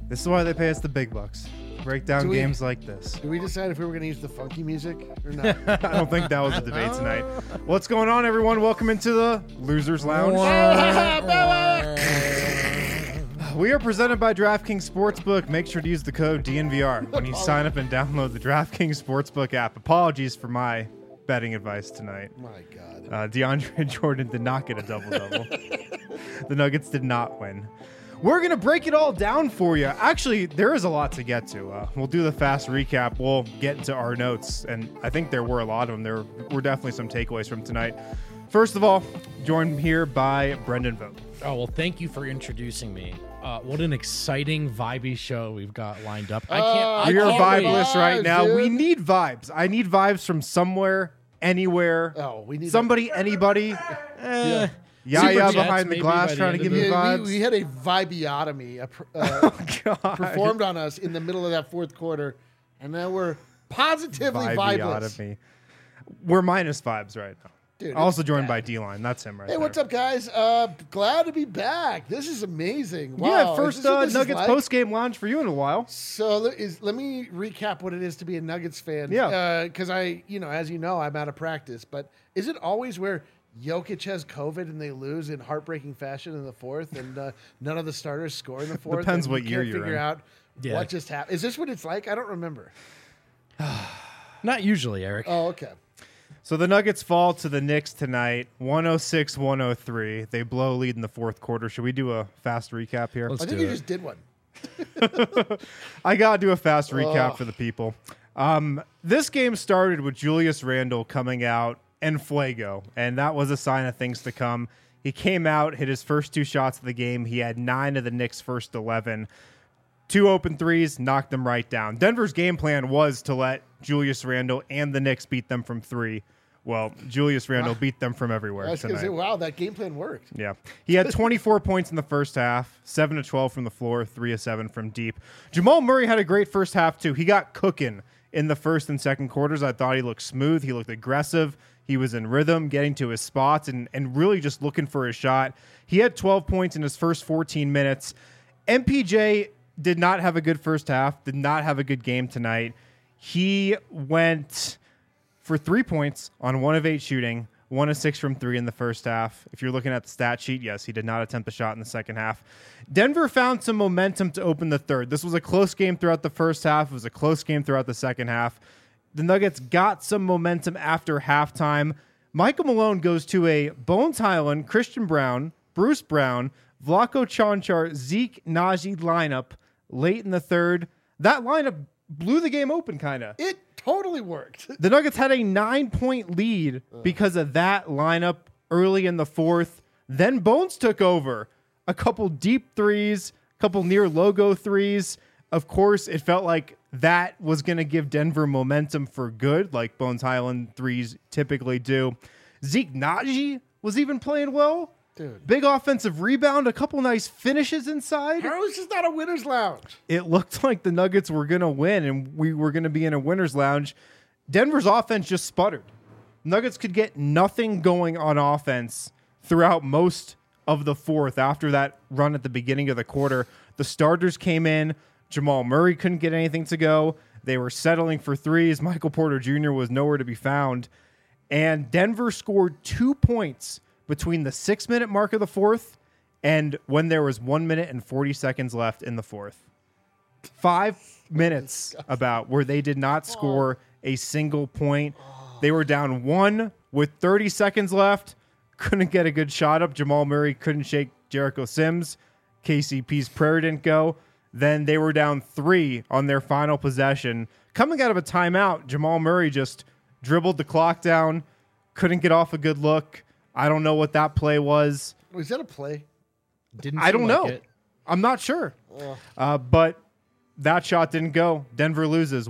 This is why they pay us the big bucks. Break down games like this. Did we decide if we were going to use the funky music or not? I don't think that was a debate tonight. What's going on, everyone? Welcome into the Losers Lounge. We are presented by DraftKings Sportsbook. Make sure to use the code DNVR when you sign up and download the DraftKings Sportsbook app. Apologies for my betting advice tonight. My God. DeAndre Jordan did not get a double-double. The Nuggets did not win. We're going to break it all down for you. Actually, there is a lot to get to. We'll do the fast recap. We'll get into our notes, and I think there were a lot of them. There were definitely some takeaways from tonight. First of all, joined here by Brendan Vogt. Oh, well, thank you for introducing me. What an exciting, vibey show we've got lined up. We are vibeless right now. dude. We need vibes. I need vibes from somewhere, anywhere. Oh, we need somebody, anybody. Yaya Super behind chats, the maybe, glass by the trying to end give of me the- vibes. We had a vibiotomy God. performed on us in the middle of that fourth quarter, and now we're positively vibeless. Vibiotomy. We're minus vibes right now. Dude, Also it's joined bad. by D-Line. That's him right Hey, there. what's up, guys? Glad to be back. This is amazing. Wow. Yeah, Is first this what this is Nuggets like? post-game lounge for you in a while. So let me recap what it is to be a Nuggets fan. Yeah. Because as you know, I'm out of practice. But is it always where Jokic has COVID and they lose in heartbreaking fashion in the fourth, and none of the starters score in the fourth? Depends and what you year can't you're figure in. out Yeah. what just happened. Is this what it's like? I don't remember. Not usually, Eric. Oh, okay. So the Nuggets fall to the Knicks tonight, 106-103. They blow lead in the fourth quarter. Should we do a fast recap here? Let's I think do you it. just did one. I got to do a fast recap for the people. This game started with Julius Randle coming out and Fuego, and that was a sign of things to come. He came out, hit his first two shots of the game. He had 9 of the Knicks' first 11. 2 open threes, knocked them right down. Denver's game plan was to let Julius Randle and the Knicks beat them from 3. Well, Julius Randle beat them from everywhere I was going to tonight. say, wow, that game plan worked. Yeah. He had 24 points in the first half, 7 of 12 from the floor, 3 of 7 from deep. Jamal Murray had a great first half, too. He got cooking in the first and second quarters. I thought he looked smooth. He looked aggressive. He was in rhythm, getting to his spots, and really just looking for his shot. He had 12 points in his first 14 minutes. MPJ did not have a good first half, did not have a good game tonight. He went for 3 points on 1 of 8 shooting, 1 of 6 from 3 in the first half. If you're looking at the stat sheet, yes, he did not attempt a shot in the second half. Denver found some momentum to open the third. This was a close game throughout the first half. It was a close game throughout the second half. The Nuggets got some momentum after halftime. Michael Malone goes to a Bones Highland, Christian Brown, Bruce Brown, Vlatko Čančar, Zeke, Najee lineup late in the third. That lineup blew the game open, kind of. It totally worked. The Nuggets had a 9-point lead because of that lineup early in the fourth. Then Bones took over. A couple deep threes, a couple near logo threes. Of course, it felt like that was going to give Denver momentum for good, like Bones Highland threes typically do. Zeke Najee was even playing well. Dude. Big offensive rebound, a couple nice finishes inside. How is this not a winner's lounge? It looked like the Nuggets were going to win and we were going to be in a winner's lounge. Denver's offense just sputtered. Nuggets could get nothing going on offense throughout most of the fourth after that run at the beginning of the quarter. The starters came in. Jamal Murray couldn't get anything to go. They were settling for threes. Michael Porter Jr. was nowhere to be found. And Denver scored 2 points between the 6-minute mark of the fourth and when there was 1 minute and 40 seconds left in the fourth. 5 minutes about where they did not score a single point. They were down 1 with 30 seconds left. Couldn't get a good shot up. Jamal Murray couldn't shake Jericho Sims. KCP's prayer didn't go. Then they were down 3 on their final possession. Coming out of a timeout, Jamal Murray just dribbled the clock down, couldn't get off a good look. I don't know what that play was. Was that a play? Didn't I seem don't like know. it. I'm not sure. But that shot didn't go. Denver loses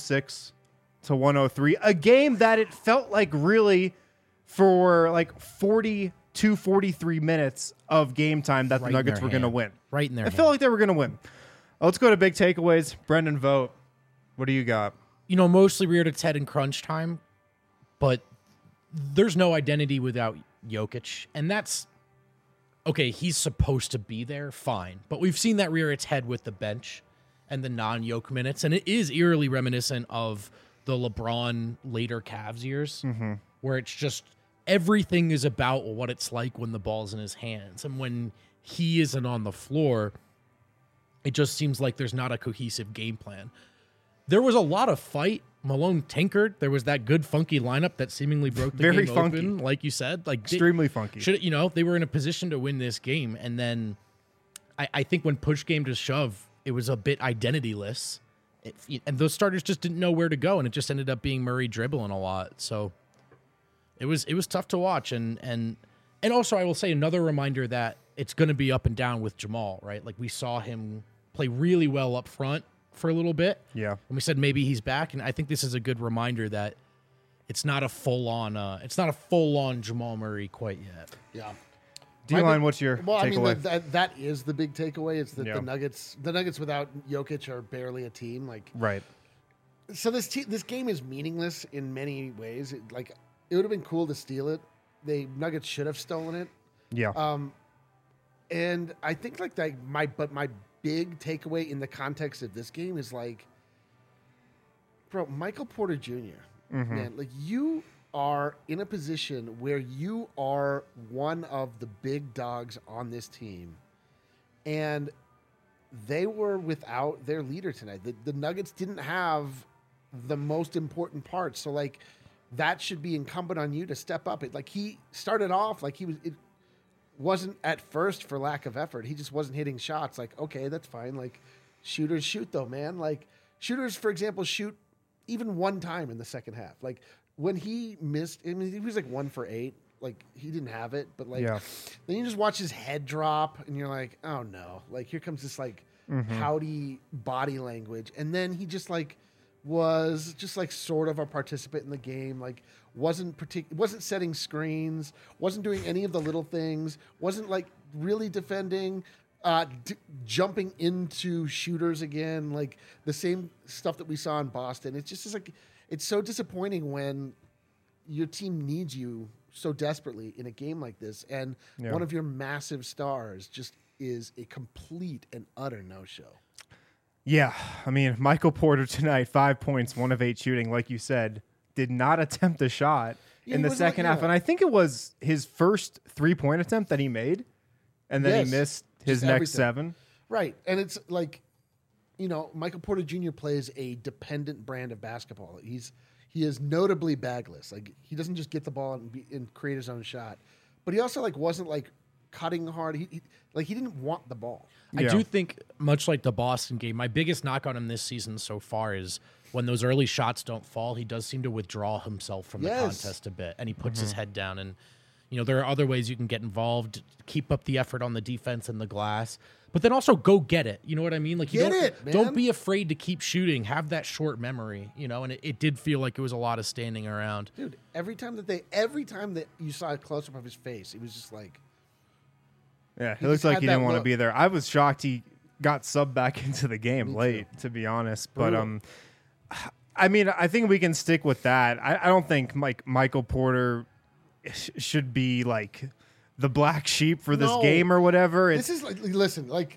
106-103. A game that it felt like really for like 42, 43 minutes of game time that the Right in Nuggets their were going to hand. win. Right in their I felt like they were going to win. Let's go to big takeaways. Brendan Vogt, what do you got? Mostly reared its head in crunch time, but there's no identity without Jokic, and that's okay. He's supposed to be there, fine, but we've seen that rear its head with the bench. and the non-Yoke minutes, and it is eerily reminiscent of the LeBron later Cavs years, where it's just everything is about what it's like when the ball's in his hands, and when he isn't on the floor, it just seems like there's not a cohesive game plan. There was a lot of fight. Malone tinkered. There was that good funky lineup that seemingly broke the Very game funky. open, like you said. Like Extremely funky. They were in a position to win this game, and then I think when push came to shove, it was a bit identityless, and those starters just didn't know where to go, and it just ended up being Murray dribbling a lot. So it was tough to watch, and also I will say another reminder that it's going to be up and down with Jamal, right? Like we saw him play really well up front for a little bit. Yeah. And we said maybe he's back, and I think this is a good reminder that it's not a full on Jamal Murray quite yet. Yeah. D-line, what's your Well, I mean, takeaway? that is the big takeaway. It's that Yeah. the Nuggets without Jokic are barely a team. Like, Right. so this game is meaningless in many ways. It would have been cool to steal it. Nuggets should have stolen it. Yeah. And I think my big takeaway in the context of this game is like, bro, Michael Porter Jr. Man, like you are in a position where you are one of the big dogs on this team, and they were without their leader tonight. The Nuggets didn't have the most important part, so like that should be incumbent on you to step up. It like he started off like it wasn't at first for lack of effort. He just wasn't hitting shots. Like, okay, that's fine. Like shooters shoot though, man. Like shooters, for example, shoot even one time in the second half. Like when he missed, I mean, he was like 1 for 8. Like he didn't have it, but like then you just watch his head drop and you're like, oh no, like here comes this like pouty body language. And then he just like was just like sort of a participant in the game. Like wasn't setting screens, wasn't doing any of the little things, wasn't like really defending, jumping into shooters again, like the same stuff that we saw in Boston. It's just like, it's so disappointing when your team needs you so desperately in a game like this, and one of your massive stars just is a complete and utter no-show. Yeah, I mean, Michael Porter tonight, 5 points, 1 of 8 shooting, like you said, did not attempt a shot in the second half. And I think it was his first 3-point attempt that he made, and then he missed his next 7. Right, and it's like, you know, Michael Porter Jr. plays a dependent brand of basketball. He is notably bagless. Like he doesn't just get the ball and create his own shot, but he also like wasn't like cutting hard. He didn't want the ball. I do think, much like the Boston game, my biggest knock on him this season so far is when those early shots don't fall, he does seem to withdraw himself from the contest a bit, and he puts his head down. And, you know, there are other ways you can get involved, keep up the effort on the defense and the glass, but then also go get it. You know what I mean? Like, don't be afraid to keep shooting. Have that short memory, you know, and it did feel like it was a lot of standing around. Dude, every time that you saw a close-up of his face, it was just like, yeah, it looks like he didn't want to be there. I was shocked he got subbed back into the game late, to be honest. Brutal. But I mean, I think we can stick with that. I don't think Michael Porter should be like the black sheep for this game or whatever. This is like, listen, like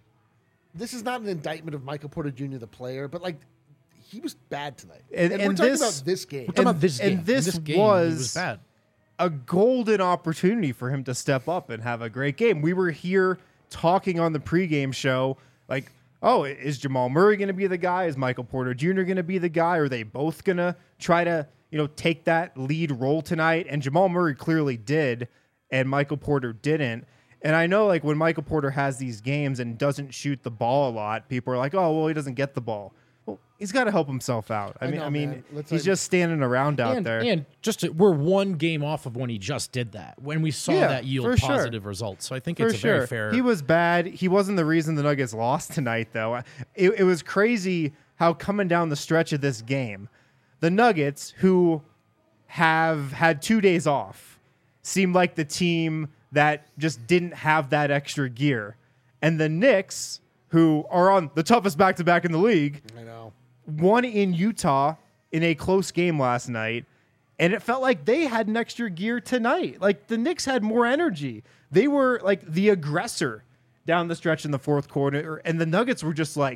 this is not an indictment of Michael Porter Jr. the player, but like he was bad tonight. And we're talking about this game. We're talking about this game. And this game, he was bad. A golden opportunity for him to step up and have a great game. We were here talking on the pregame show, like, oh, is Jamal Murray going to be the guy? Is Michael Porter Jr. going to be the guy? Are they both going to try to, you know, take that lead role tonight? And Jamal Murray clearly did, and Michael Porter didn't. And I know, like, when Michael Porter has these games and doesn't shoot the ball a lot, people are like, oh, well, he doesn't get the ball. Well, he's got to help himself out. I mean, he's just standing around out there. And we're one game off of when he just did that, when we saw that yield positive results. So I think it's very fair. He was bad. He wasn't the reason the Nuggets lost tonight, though. It was crazy how coming down the stretch of this game, the Nuggets, who have had 2 days off, seemed like the team that just didn't have that extra gear. And the Knicks, who are on the toughest back-to-back in the league, I know, won in Utah in a close game last night, and it felt like they had an extra gear tonight. Like, the Knicks had more energy. They were, like, the aggressor down the stretch in the fourth quarter, and the Nuggets were just like,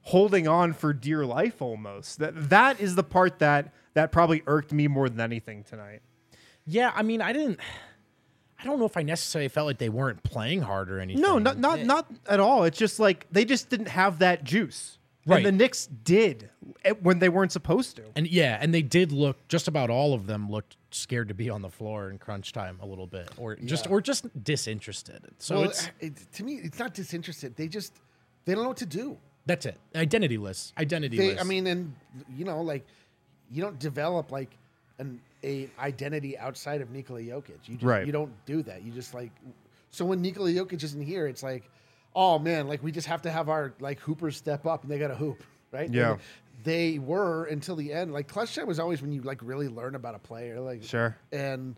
holding on for dear life almost. That is the part that probably irked me more than anything tonight. Yeah, I mean, I don't know if I necessarily felt like they weren't playing hard or anything. No, not at all. It's just like they just didn't have that juice. Right. And the Knicks did when they weren't supposed to. And they did look, just about all of them looked scared to be on the floor in crunch time a little bit, or just disinterested. So to me, it's not disinterested. They don't know what to do. That's it. Identityless. I mean, and like you don't develop like an identity outside of Nikola Jokic. You don't do that. You just like, so when Nikola Jokic isn't here, it's like, oh man, like we just have to have our like hoopers step up and they got to hoop, right? Yeah. And they were until the end. Like clutch time was always when you like really learn about a player, like sure. And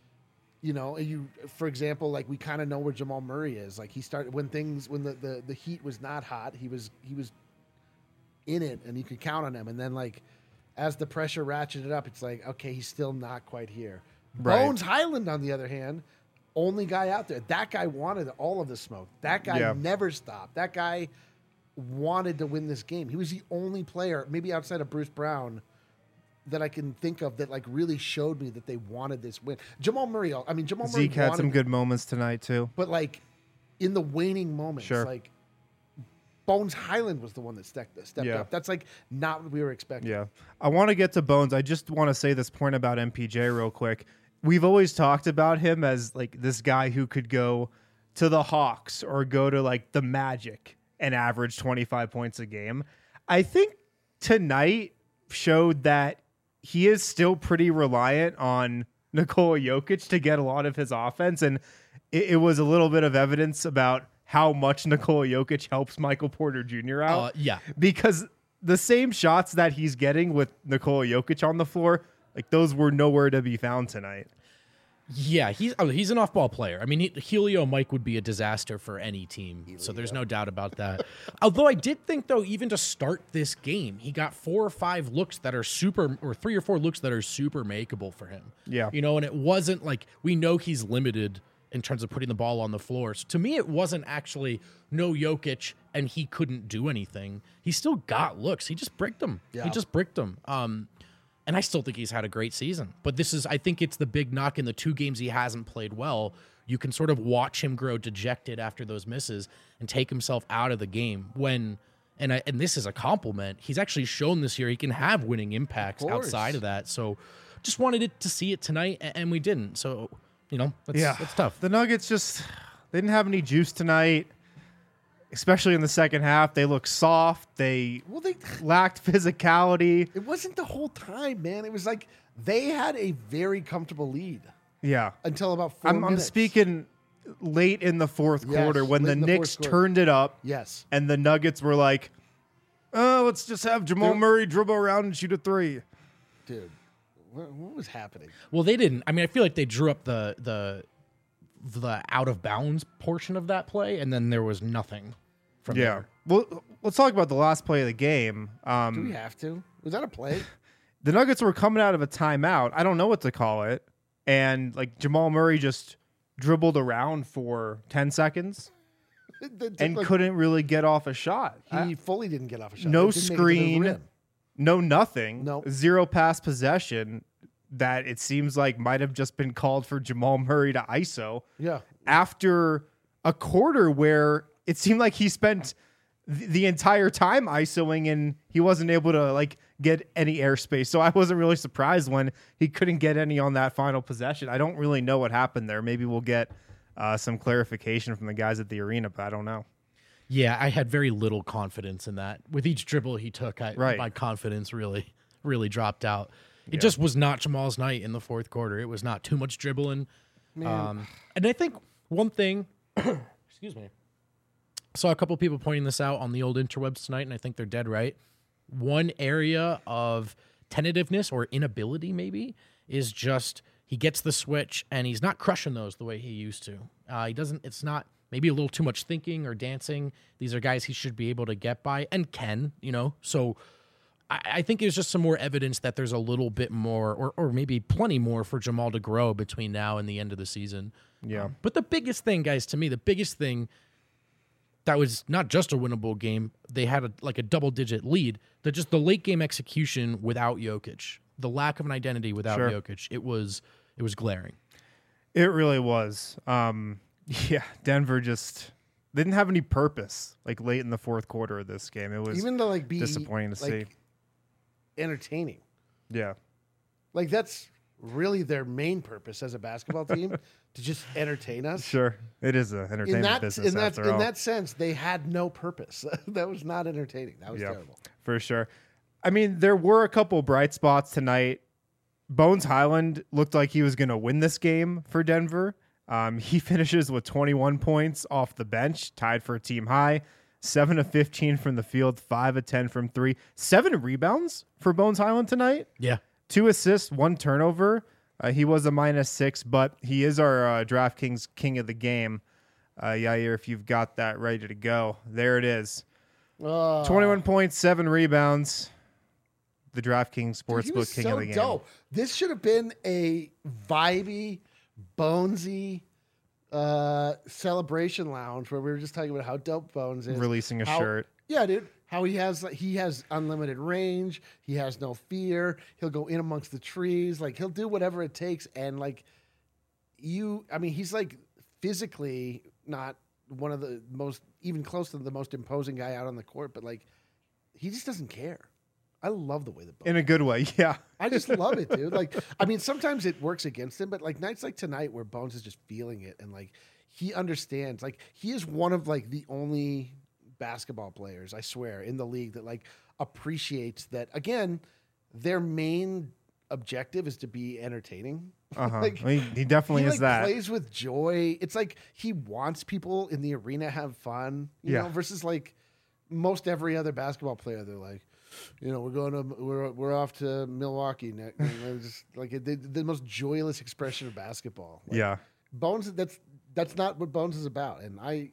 for example, like we kind of know where Jamal Murray is. Like he started when the heat was not hot, he was in it and you could count on him. And then like as the pressure ratcheted up, it's like, okay, he's still not quite here. Right. Bones Highland, on the other hand, only guy out there. That guy wanted all of the smoke. That guy never stopped. That guy wanted to win this game. He was the only player, maybe outside of Bruce Brown, that I can think of that like really showed me that they wanted this win. Jamal Murray Zeke had some good moments tonight too. But like in the waning moments, like Bones Highland was the one that stepped up. That's like not what we were expecting. Yeah. I want to get to Bones. I just want to say this point about MPJ real quick. We've always talked about him as like this guy who could go to the Hawks or go to like the Magic and average 25 points a game. I think tonight showed that he is still pretty reliant on Nikola Jokic to get a lot of his offense. And it was a little bit of evidence about how much Nikola Jokic helps Michael Porter Jr. out. Because the same shots that he's getting with Nikola Jokic on the floor, like those were nowhere to be found tonight. Yeah, he's an off-ball player. I mean, Helio Mike would be a disaster for any team, so there's no doubt about that. Although I did think, though, even to start this game, he got 4 or 5 looks that are super, or 3 or 4 looks that are super makeable for him. Yeah. And it wasn't like, we know he's limited in terms of putting the ball on the floor. So to me, it wasn't actually no Jokic and he couldn't do anything. He still got looks. He just bricked them. Yeah. He just bricked them. And I still think he's had a great season. But I think it's the big knock in the 2 games he hasn't played well. You can sort of watch him grow dejected after those misses and take himself out of the game when, and this is a compliment, he's actually shown this year he can have winning impacts outside of that. So just wanted to see it tonight, and we didn't. So, it's tough. The Nuggets they didn't have any juice tonight. Especially in the second half, they looked soft. They lacked physicality. It wasn't the whole time, man. It was like they had a very comfortable lead. Yeah. Until about 4 minutes. I'm speaking late in the fourth quarter when the Knicks turned it up. Yes. And the Nuggets were like, oh, let's just have Jamal Murray dribble around and shoot a 3. Dude, what was happening? Well, they didn't. I mean, I feel like they drew up the out of bounds portion of that play, and then there was nothing from there. Well, let's talk about the last play of the game. Do we have to? Was that a play? The Nuggets were coming out of a timeout. I don't know what to call it. And like Jamal Murray just dribbled around for 10 seconds and couldn't really get off a shot. He fully didn't get off a shot. No screen, no nothing. No. 0 pass possession that it seems like might have just been called for Jamal Murray to ISO. Yeah. After a quarter where it seemed like he spent the entire time ISOing and he wasn't able to like get any airspace. So I wasn't really surprised when he couldn't get any on that final possession. I don't really know what happened there. Maybe we'll get some clarification from the guys at the arena, but I don't know. Yeah, I had very little confidence in that. With each dribble he took, my confidence really, really dropped out. It just was not Jamal's night in the fourth quarter. It was not too much dribbling. And I think one thing, excuse me, saw a couple people pointing this out on the old interwebs tonight, and I think they're dead right. One area of tentativeness or inability maybe is just he gets the switch and he's not crushing those the way he used to. It's not maybe a little too much thinking or dancing. These are guys he should be able to get by and can, so I think there's just some more evidence that there's a little bit more or maybe plenty more for Jamal to grow between now and the end of the season. Yeah. But the biggest thing, guys, to me, the biggest thing that was not just a winnable game. They had a double-digit lead. That just the late game execution without Jokic, the lack of an identity without Jokic, it was glaring. It really was. Denver just didn't have any purpose like late in the fourth quarter of this game. It was even to be disappointing to see. Entertaining. Yeah. Like that's really their main purpose as a basketball team to just entertain us. Sure. It is an entertainment business after all. In that sense, they had no purpose. That was not entertaining. That was terrible. For sure. I mean, there were a couple bright spots tonight. Bones Highland looked like he was going to win this game for Denver. He finishes with 21 points off the bench, tied for a team high. 7 of 15 from the field, 5 of 10 from 3. 7 rebounds for Bones Highland tonight. Yeah. 2 assists, 1 turnover. He was a -6, but he is our DraftKings king of the game. Yair, if you've got that ready to go. There it is. 21 points, 7 rebounds. The DraftKings Sportsbook king of the game. Dope. This should have been a vibey, bonesy celebration lounge where we were just talking about how dope Bones is. Releasing a shirt. Yeah, dude. How he has unlimited range. He has no fear. He'll go in amongst the trees. Like he'll do whatever it takes. And he's like physically not one of the most, even close to the most imposing guy out on the court, but like he just doesn't care. I love the way that Bones in a good way, yeah. I just love it, dude. Like, I mean, sometimes it works against him, but like nights like tonight where Bones is just feeling it and like he understands. Like he is one of like the only basketball players, I swear, in the league that like appreciates that. Again, their main objective is to be entertaining. Like, he definitely is that. Plays with joy. It's like he wants people in the arena have fun, you know, versus like most every other basketball player. They're like, you know, we're off to Milwaukee next. Just like the most joyless expression of basketball. Like, Bones. That's not what Bones is about. And I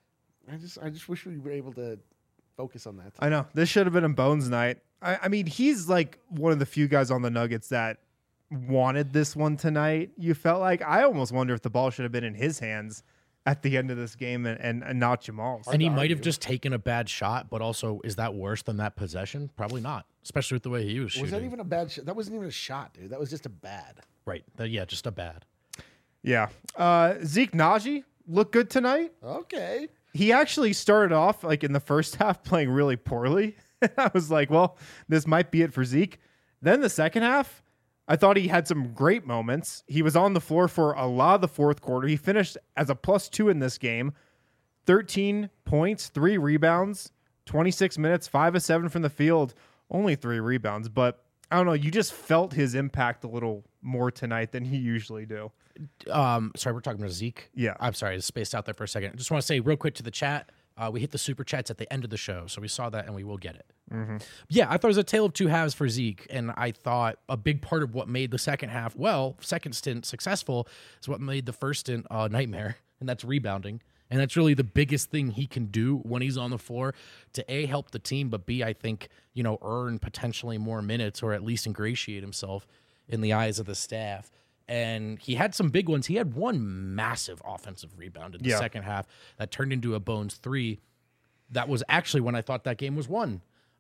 just wish we were able to focus on that. I know this should have been a Bones night. I mean, he's like one of the few guys on the Nuggets that wanted this one tonight. You felt like I almost wonder if the ball should have been in his hands at the end of this game and not Jamal's. And he might have just taken a bad shot, but also, is that worse than that possession? Probably not, especially with the way he was shooting. Was that even a bad shot? That wasn't even a shot, dude. That was just a bad. Right. Just a bad. Yeah. Zeke Naji looked good tonight. Okay. He actually started off like in the first half playing really poorly. I was like, well, this might be it for Zeke. Then the second half, I thought he had some great moments. He was on the floor for a lot of the fourth quarter. He finished as a +2 in this game. 13 points, 3 rebounds, 26 minutes, 5 of 7 from the field, only 3 rebounds. But I don't know, you just felt his impact a little more tonight than he usually do. Sorry, we're talking about Zeke. Yeah. I'm sorry, I spaced out there for a second. I just want to say real quick to the chat, we hit the super chats at the end of the show, so we saw that and we will get it. Mm-hmm. Yeah, I thought it was a tale of two halves for Zeke, and I thought a big part of what made the second stint successful is what made the first stint a nightmare, and that's rebounding. And that's really the biggest thing he can do when he's on the floor to A, help the team, but B, I think, earn potentially more minutes or at least ingratiate himself in the eyes of the staff. And he had some big ones. He had one massive offensive rebound in the second half that turned into a Bones 3. That was actually when I thought that game was won.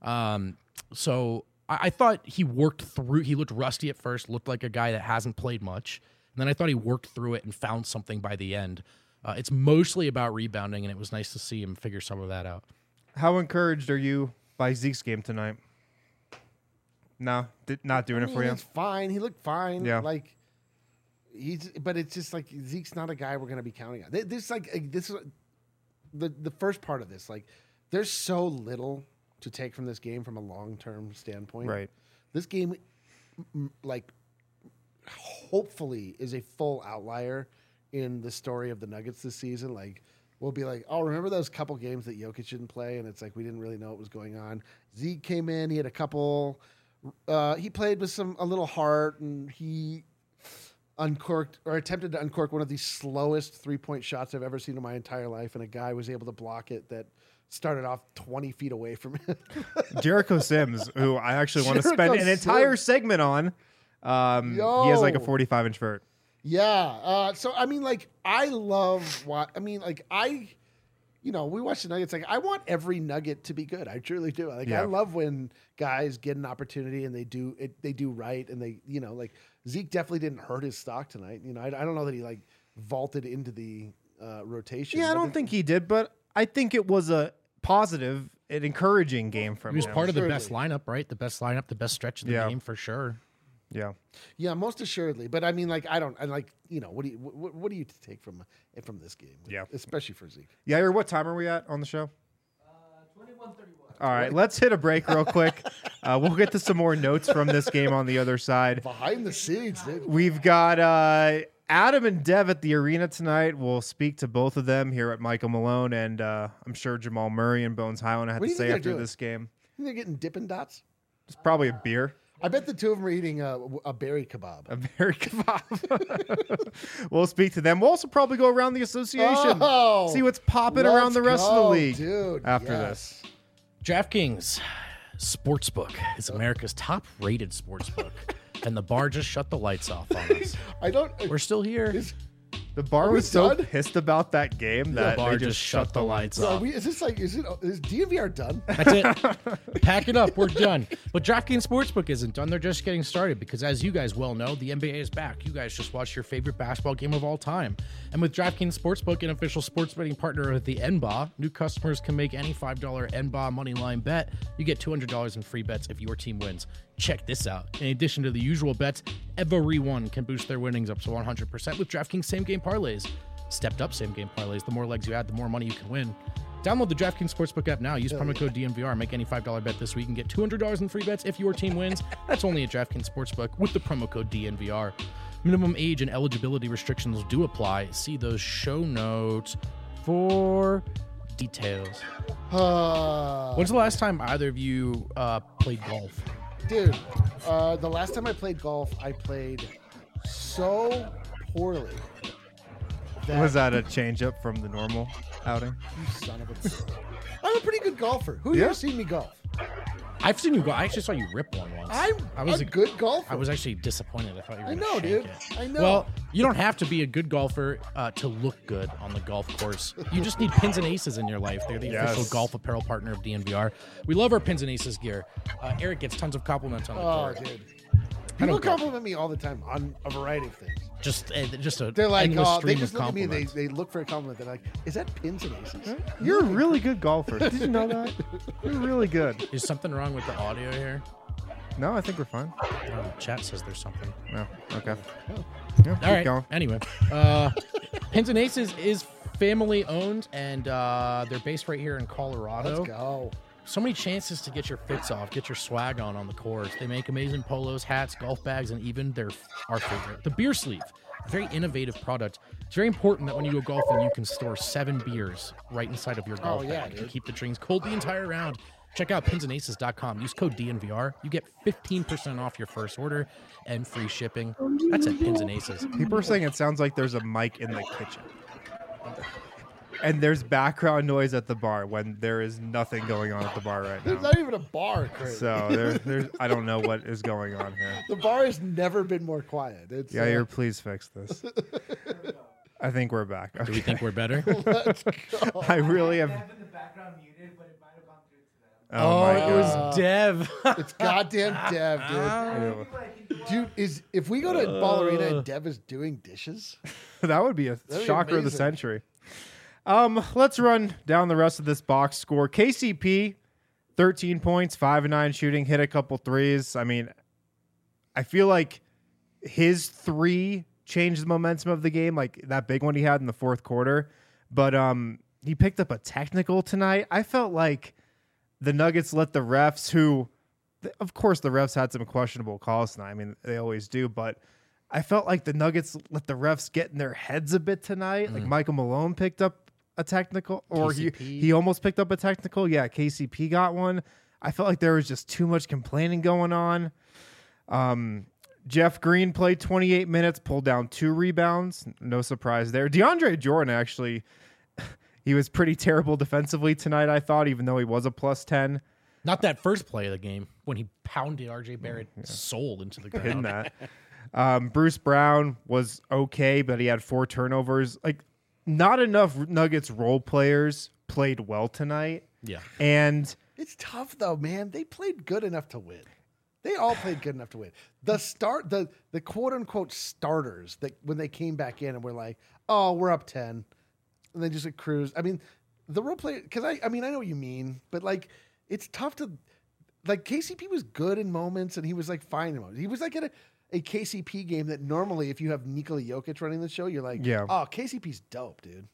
So I thought he worked through. He looked rusty at first, looked like a guy that hasn't played much. And then I thought he worked through it and found something by the end. It's mostly about rebounding, and it was nice to see him figure some of that out. How encouraged are you by Zeke's game tonight? No, not doing it for you? It's fine. He looked fine. Yeah. But it's just like Zeke's not a guy we're going to be counting on. This is the first part of this. Like, there's so little to take from this game from a long-term standpoint. Right. This game, like, hopefully is a full outlier in the story of the Nuggets this season. Like, we'll be like, oh, remember those couple games that Jokic didn't play? And it's like we didn't really know what was going on. Zeke came in. He had a couple. He played with a little heart, and he uncorked or attempted to uncork one of the slowest 3-point shots I've ever seen in my entire life, and a guy was able to block it that started off 20 feet away from him. Jericho Sims, who I actually want to spend an entire segment on. He has like a 45-inch vert. Yeah. So I mean, like, I love what I mean. Like, we watch the Nuggets. Like, I want every Nugget to be good. I truly do. Like, Yeah. I love when guys get an opportunity and they do it. They do right, and they, like Zeke definitely didn't hurt his stock tonight. I don't know that he like vaulted into the rotation. Yeah, I don't think he did, but I think it was a positive, an encouraging game from He was him. part of the Surely. best lineup, right? The best lineup, the best stretch of the Yeah. game for sure. Yeah. Yeah, most assuredly. But I mean, like, I like, what do you take from this game? Yeah. Especially for Zeke. Yair, what time are we at on the show? 21:31. All right, let's hit a break real quick. We'll get to some more notes from this game on the other side. Behind the scenes, dude. We've got Adam and Dev at the arena tonight. We'll speak to both of them here at Michael Malone, and I'm sure Jamal Murray and Bones Highland had What to do you say think they're after doing? this game. They're getting Dippin' Dots. It's probably a beer. I bet the two of them are eating a berry kebab. A berry kebab. We'll speak to them. We'll also probably go around the association, Oh, see what's popping around the rest of the go, league dude. after Yes. this. DraftKings Sportsbook is America's top-rated sportsbook, and the bar just shut the lights off on us. I don't. We're still here. The bar Are we was so done? pissed about that game The that bar they just shut the lights So off. is DNVR done? That's it. Pack it up. We're done. But DraftKings Sportsbook isn't done. They're just getting started because, as you guys well know, the NBA is back. You guys just watched your favorite basketball game of all time. And with DraftKings Sportsbook, an official sports betting partner of the NBA, new customers can make any $5 NBA money line bet. You get $200 in free bets if your team wins. Check this out. In addition to the usual bets, everyone can boost their winnings up to 100% with DraftKings same-game parlays. Stepped up same-game parlays. The more legs you add, the more money you can win. Download the DraftKings Sportsbook app now. Use promo code DNVR. Make any $5 bet this week and get $200 in free bets if your team wins. That's only at DraftKings Sportsbook with the promo code DNVR. Minimum age and eligibility restrictions do apply. See those show notes for details. When's the last time either of you played golf? Dude, the last time I played golf, I played so poorly. Was that a change up from the normal outing? You son of a... I'm a pretty good golfer. Who Yeah. here seen me golf? I've seen you go. I actually saw you rip one once. I'm a good golfer. I was actually disappointed. I thought you were I gonna know, shank dude. it. I know. Well, you don't have to be a good golfer to look good on the golf course. You just need Pins and Aces in your life. They're the Yes. official golf apparel partner of DNVR. We love our Pins and Aces gear. Eric gets tons of compliments on the Oh, court. dude. I People don't go. compliment me all the time on a variety of things. Just a They're like, endless they stream just of look at me and compliments. they look for a compliment. They're like, is that Pins and Aces? You're a really good golfer. Did you know that? You're really good. Is something wrong with the audio here? No, I think we're fine. Oh, chat says there's something. No, okay. Yeah, All keep right. going. Anyway, Pins and Aces is family owned, and they're based right here in Colorado. Let's go. So many chances to get your fits off, get your swag on the course. They make amazing polos, hats, golf bags, and even our favorite, the beer sleeve. A very innovative product. It's very important that when you go golfing, you can store 7 beers right inside of your golf yeah, bag and dude. keep the drinks cold the entire round. Check out pinsandaces.com. Use code DNVR. You get 15% off your first order and free shipping. That's at Pins and Aces. People are saying it sounds like there's a mic in the kitchen. And there's background noise at the bar when there is nothing going on at the bar right There's now. not even a bar, Chris. So there's I don't know what is going on here. The bar has never been more quiet. It's, Yeah, you're please fix this. I think we're back. Do we Okay. think we're better? let's go. I really have. Have in the background muted, but it might have gone through to them. Oh, my it was god. Dev. It's goddamn Dev, dude. Dude, if we go to Ballerina and Dev is doing dishes, That would be a That'd be shocker of the amazing. century. Let's run down the rest of this box score. KCP, 13 points, 5 and 9 shooting, hit a couple threes. I mean, I feel like his 3 changed the momentum of the game, like that big one he had in the fourth quarter. But he picked up a technical tonight. I felt like the Nuggets let the refs, who, of course, the refs had some questionable calls tonight. I mean, they always do, but I felt like the Nuggets let the refs get in their heads a bit tonight. Like Michael Malone picked up a technical, or KCP. he almost picked up a technical. Yeah, KCP got one. I felt like there was just too much complaining going on. Jeff Green played 28 minutes, pulled down 2 rebounds. No surprise there. DeAndre Jordan, actually, he was pretty terrible defensively tonight, I thought, even though he was a plus 10. Not that first play of the game when he pounded RJ Barrett's soul into the In ground. that. Bruce Brown was okay, but he had 4 turnovers. Like, not enough Nuggets role players played well tonight. Yeah. And It's tough though, man. They played good enough to win. They all played good enough to win. The quote unquote starters that when they came back in and were like, oh, we're up 10. And they just like, cruised. I mean, the role play, because I mean, I know what you mean, but like, it's tough to, like, KCP was good in moments and he was like fine in moments. He was like at a KCP game that normally, if you have Nikola Jokic running the show, you're like, oh, KCP's dope, dude.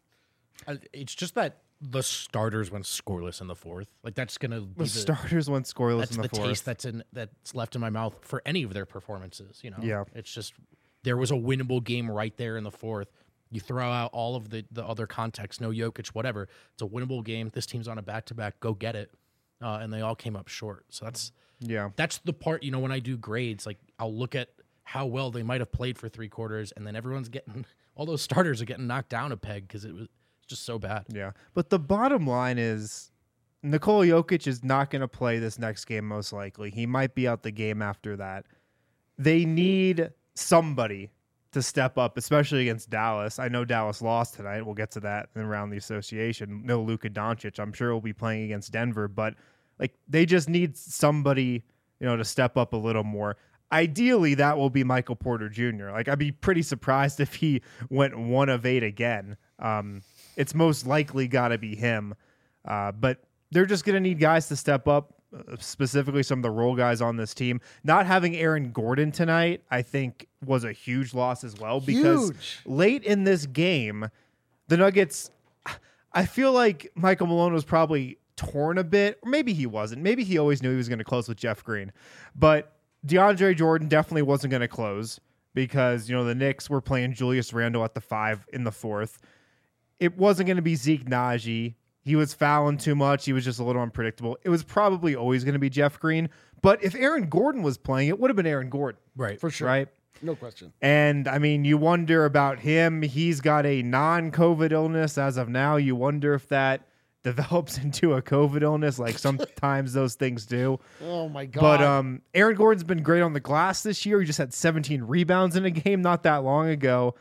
It's just that the starters went scoreless in the fourth. Like that's gonna be the starters went scoreless in the fourth. Taste that's left in my mouth for any of their performances. You know, Yeah. It's just there was a winnable game right there in the fourth. You throw out all of the other context, no Jokic, whatever. It's a winnable game. This team's on a back-to-back. Go get it. And they all came up short. So that's the part. You know, when I do grades, like I'll look at how well they might have played for 3 quarters, and then everyone's getting all those starters are getting knocked down a peg because it was just so bad. Yeah. But the bottom line is Nikola Jokic is not going to play this next game, most likely. He might be out the game after that. They need somebody to step up, especially against Dallas. I know Dallas lost tonight. We'll get to that around the association. No Luka Doncic. I'm sure he'll be playing against Denver, but like they just need somebody, you know, to step up a little more. Ideally, that will be Michael Porter Jr. Like I'd be pretty surprised if he went 1 of 8 again. It's most likely got to be him. But they're just going to need guys to step up, specifically some of the role guys on this team. Not having Aaron Gordon tonight, I think, was a huge loss as well. Because late in this game, the Nuggets, I feel like Michael Malone was probably torn a bit. Or maybe he wasn't. Maybe he always knew he was going to close with Jeff Green. But DeAndre Jordan definitely wasn't going to close because, you know, the Knicks were playing Julius Randle at the 5 in the fourth. It wasn't going to be Zeke Naji. He was fouling too much. He was just a little unpredictable. It was probably always going to be Jeff Green. But if Aaron Gordon was playing, it would have been Aaron Gordon. Right. For sure. Right? No question. And, I mean, you wonder about him. He's got a non-COVID illness as of now. You wonder if that develops into a COVID illness like sometimes those things do. Oh, my God. But Aaron Gordon's been great on the glass this year. He just had 17 rebounds in a game not that long ago.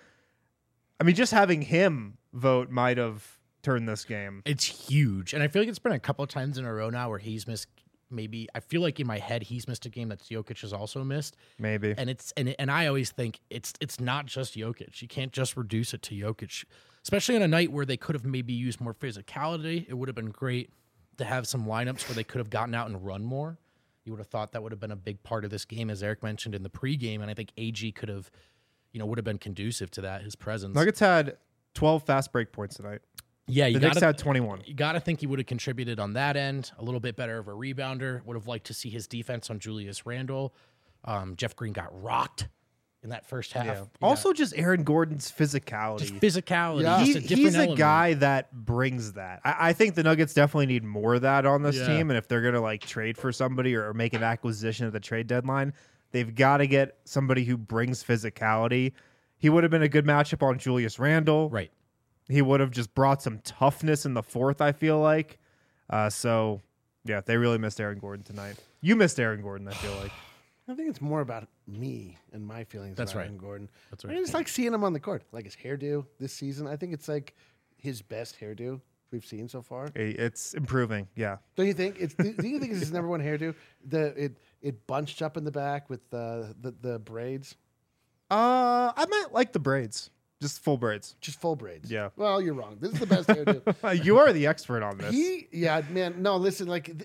I mean, just having him vote might have turned this game. It's huge. And I feel like it's been a couple of times in a row now where he's missed maybe I feel like in my head he's missed a game that Jokic has also missed. Maybe. And I always think it's not just Jokic. You can't just reduce it to Jokic. Especially on a night where they could have maybe used more physicality. It would have been great to have some lineups where they could have gotten out and run more. You would have thought that would have been a big part of this game, as Eric mentioned in the pregame, and I think AG could have, would have been conducive to that, his presence. Nuggets had 12 fast break points tonight. Yeah, the Knicks had 21. You got to think he would have contributed on that end, a little bit better of a rebounder. Would have liked to see his defense on Julius Randle. Jeff Green got rocked in that first half. Yeah. Also, just Aaron Gordon's physicality. Just physicality. Yeah. Just a different He's a element. guy that brings that. I think the Nuggets definitely need more of that on this team. And if they're going to like trade for somebody or make an acquisition at the trade deadline, they've got to get somebody who brings physicality. He would have been a good matchup on Julius Randle. Right. He would have just brought some toughness in the fourth, I feel like. So, yeah, they really missed Aaron Gordon tonight. You missed Aaron Gordon, I feel like. I think it's more about me and my feelings That's about right. Aaron Gordon. That's I right. mean, it's like seeing him on the court. Like his hairdo this season. I think it's like his best hairdo we've seen so far. It's improving, yeah. Don't you think? Do you think it's his number one hairdo? It bunched up in the back with the braids. I might like the braids. Just full braids. Just full braids. Yeah. Well, you're wrong. This is the best hairdo. You are the expert on this. Man. No, listen.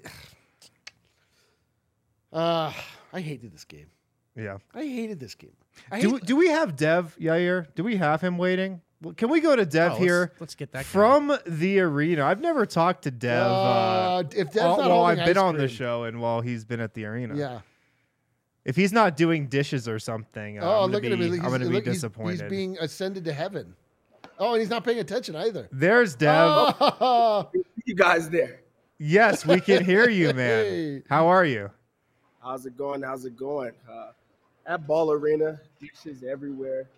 I hated this game. Yeah. I hated this game. Do we have Dev, Yair? Do we have him waiting? Well, can we go to Dev here? Let's get that guy. From the arena. I've never talked to Dev if Dev's not while holding I've been ice on the cream. show and while he's been at the arena. Yeah. If he's not doing dishes or something, I'm Look at him. I'm going to be He's disappointed. being ascended to heaven. Oh, and he's not paying attention either. There's Dev. You guys there? Yes, we can hear you, man. Hey. How are you? How's it going? At Ball Arena, dishes everywhere.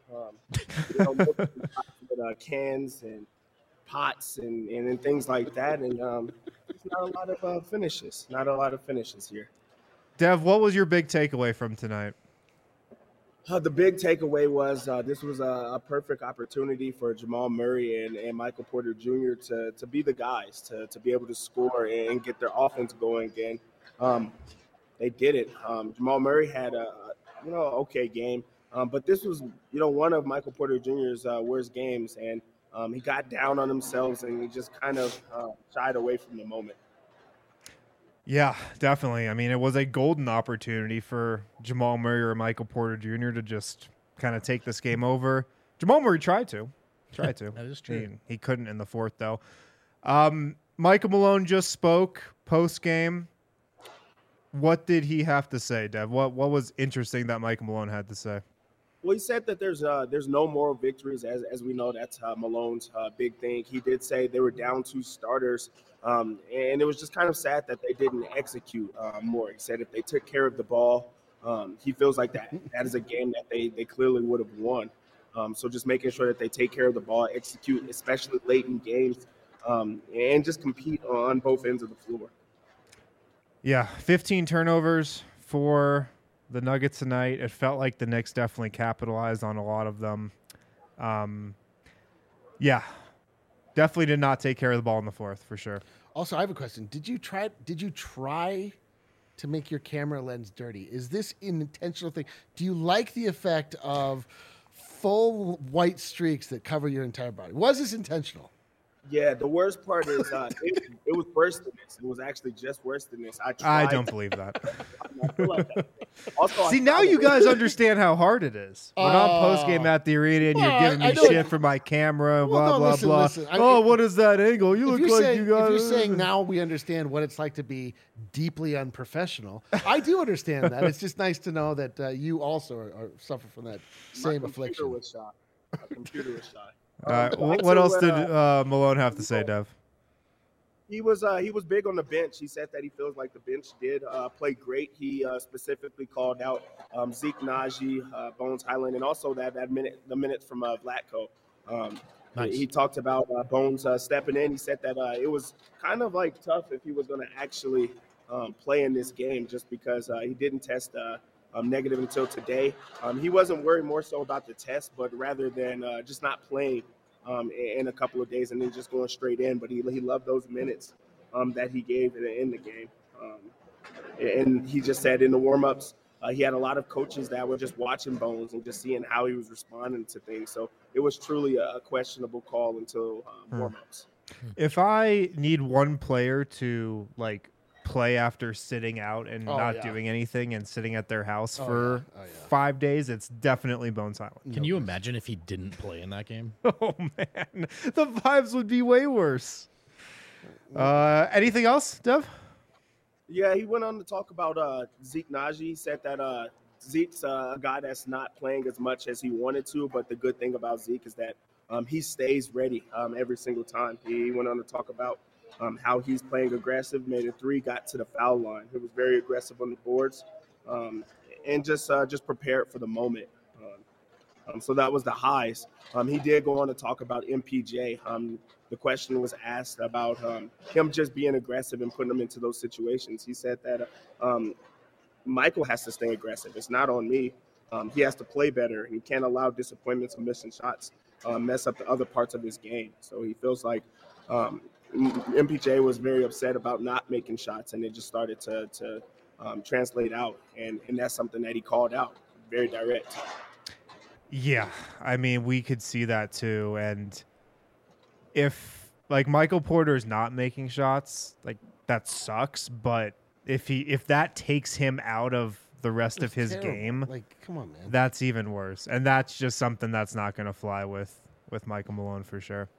With cans and pots and things like that. And there's not a lot of finishes. Not a lot of finishes here. Dev, what was your big takeaway from tonight? The big takeaway was this was a perfect opportunity for Jamal Murray and Michael Porter Jr. to be the guys, to be able to score and get their offense going again. They did it. Jamal Murray had a okay game, but this was one of Michael Porter Jr.'s worst games, and he got down on himself and he just kind of shied away from the moment. Yeah, definitely. I mean, it was a golden opportunity for Jamal Murray or Michael Porter Jr. to just kind of take this game over. Jamal Murray tried to. That is true. He couldn't in the fourth, though. Michael Malone just spoke post-game. What did he have to say, Dev? What was interesting that Michael Malone had to say? Well, he said that there's no moral victories, as we know. That's Malone's big thing. He did say they were down 2 starters, and it was just kind of sad that they didn't execute more. He said if they took care of the ball, he feels like that is a game that they clearly would have won. So just making sure that they take care of the ball, execute, especially late in games, and just compete on both ends of the floor. Yeah, 15 turnovers for the Nuggets tonight. It felt like the Knicks definitely capitalized on a lot of them. Yeah, definitely did not take care of the ball in the fourth for sure. Also, I have a question. Did you try to make your camera lens dirty? Is this an intentional thing? Do you like the effect of full white streaks that cover your entire body? Was this intentional? Yeah, the worst part is it was worse than this. It was actually just worse than this. I don't believe that. I feel like that. Also, See, now you guys understand how hard it is. We're not post-game at the arena, and you're giving me shit for my camera, blah, blah, blah. Listen. What is that angle? You look like you got... If you're saying now we understand what it's like to be deeply unprofessional, I do understand that. It's just nice to know that you also suffer from that same affliction. My computer was shot. What else did Malone have to say, Dev? He was big on the bench. He said that he feels like the bench did play great. He specifically called out Zeke Naji, Bones Highland, and also the minutes from Vlatko. Nice. He talked about Bones stepping in. He said that it was kind of like tough if he was going to actually play in this game, just because he didn't test negative until today. He wasn't worried more so about the test, but rather than just not playing in a couple of days and then just going straight in. But he loved those minutes that he gave in the game. And he just said in the warm-ups, he had a lot of coaches that were just watching Bones and just seeing how he was responding to things. So it was truly a questionable call until warm-ups. If I need one player to play after sitting out and not doing anything and sitting at their house for 5 days, it's definitely Bones Highland. Can you imagine if he didn't play in that game? Oh man, the vibes would be way worse. Anything else, Dev? Yeah, he went on to talk about Zeke Naji. He said that Zeke's a guy that's not playing as much as he wanted to, but the good thing about Zeke is that he stays ready every single time. He went on to talk about how he's playing aggressive, made a 3, got to the foul line. He was very aggressive on the boards, and just prepared for the moment. So that was the highs. He did go on to talk about MPJ. The question was asked about him just being aggressive and putting him into those situations. He said that Michael has to stay aggressive. It's not on me. He has to play better. He can't allow disappointments or missing shots mess up the other parts of his game. So he feels like MPJ was very upset about not making shots, and it just started to translate out. And that's something that he called out, very direct. Yeah, I mean, we could see that too. And if Michael Porter is not making shots, that sucks. But if that takes him out of the rest of his game, come on, man, that's even worse. And that's just something that's not going to fly with Michael Malone for sure.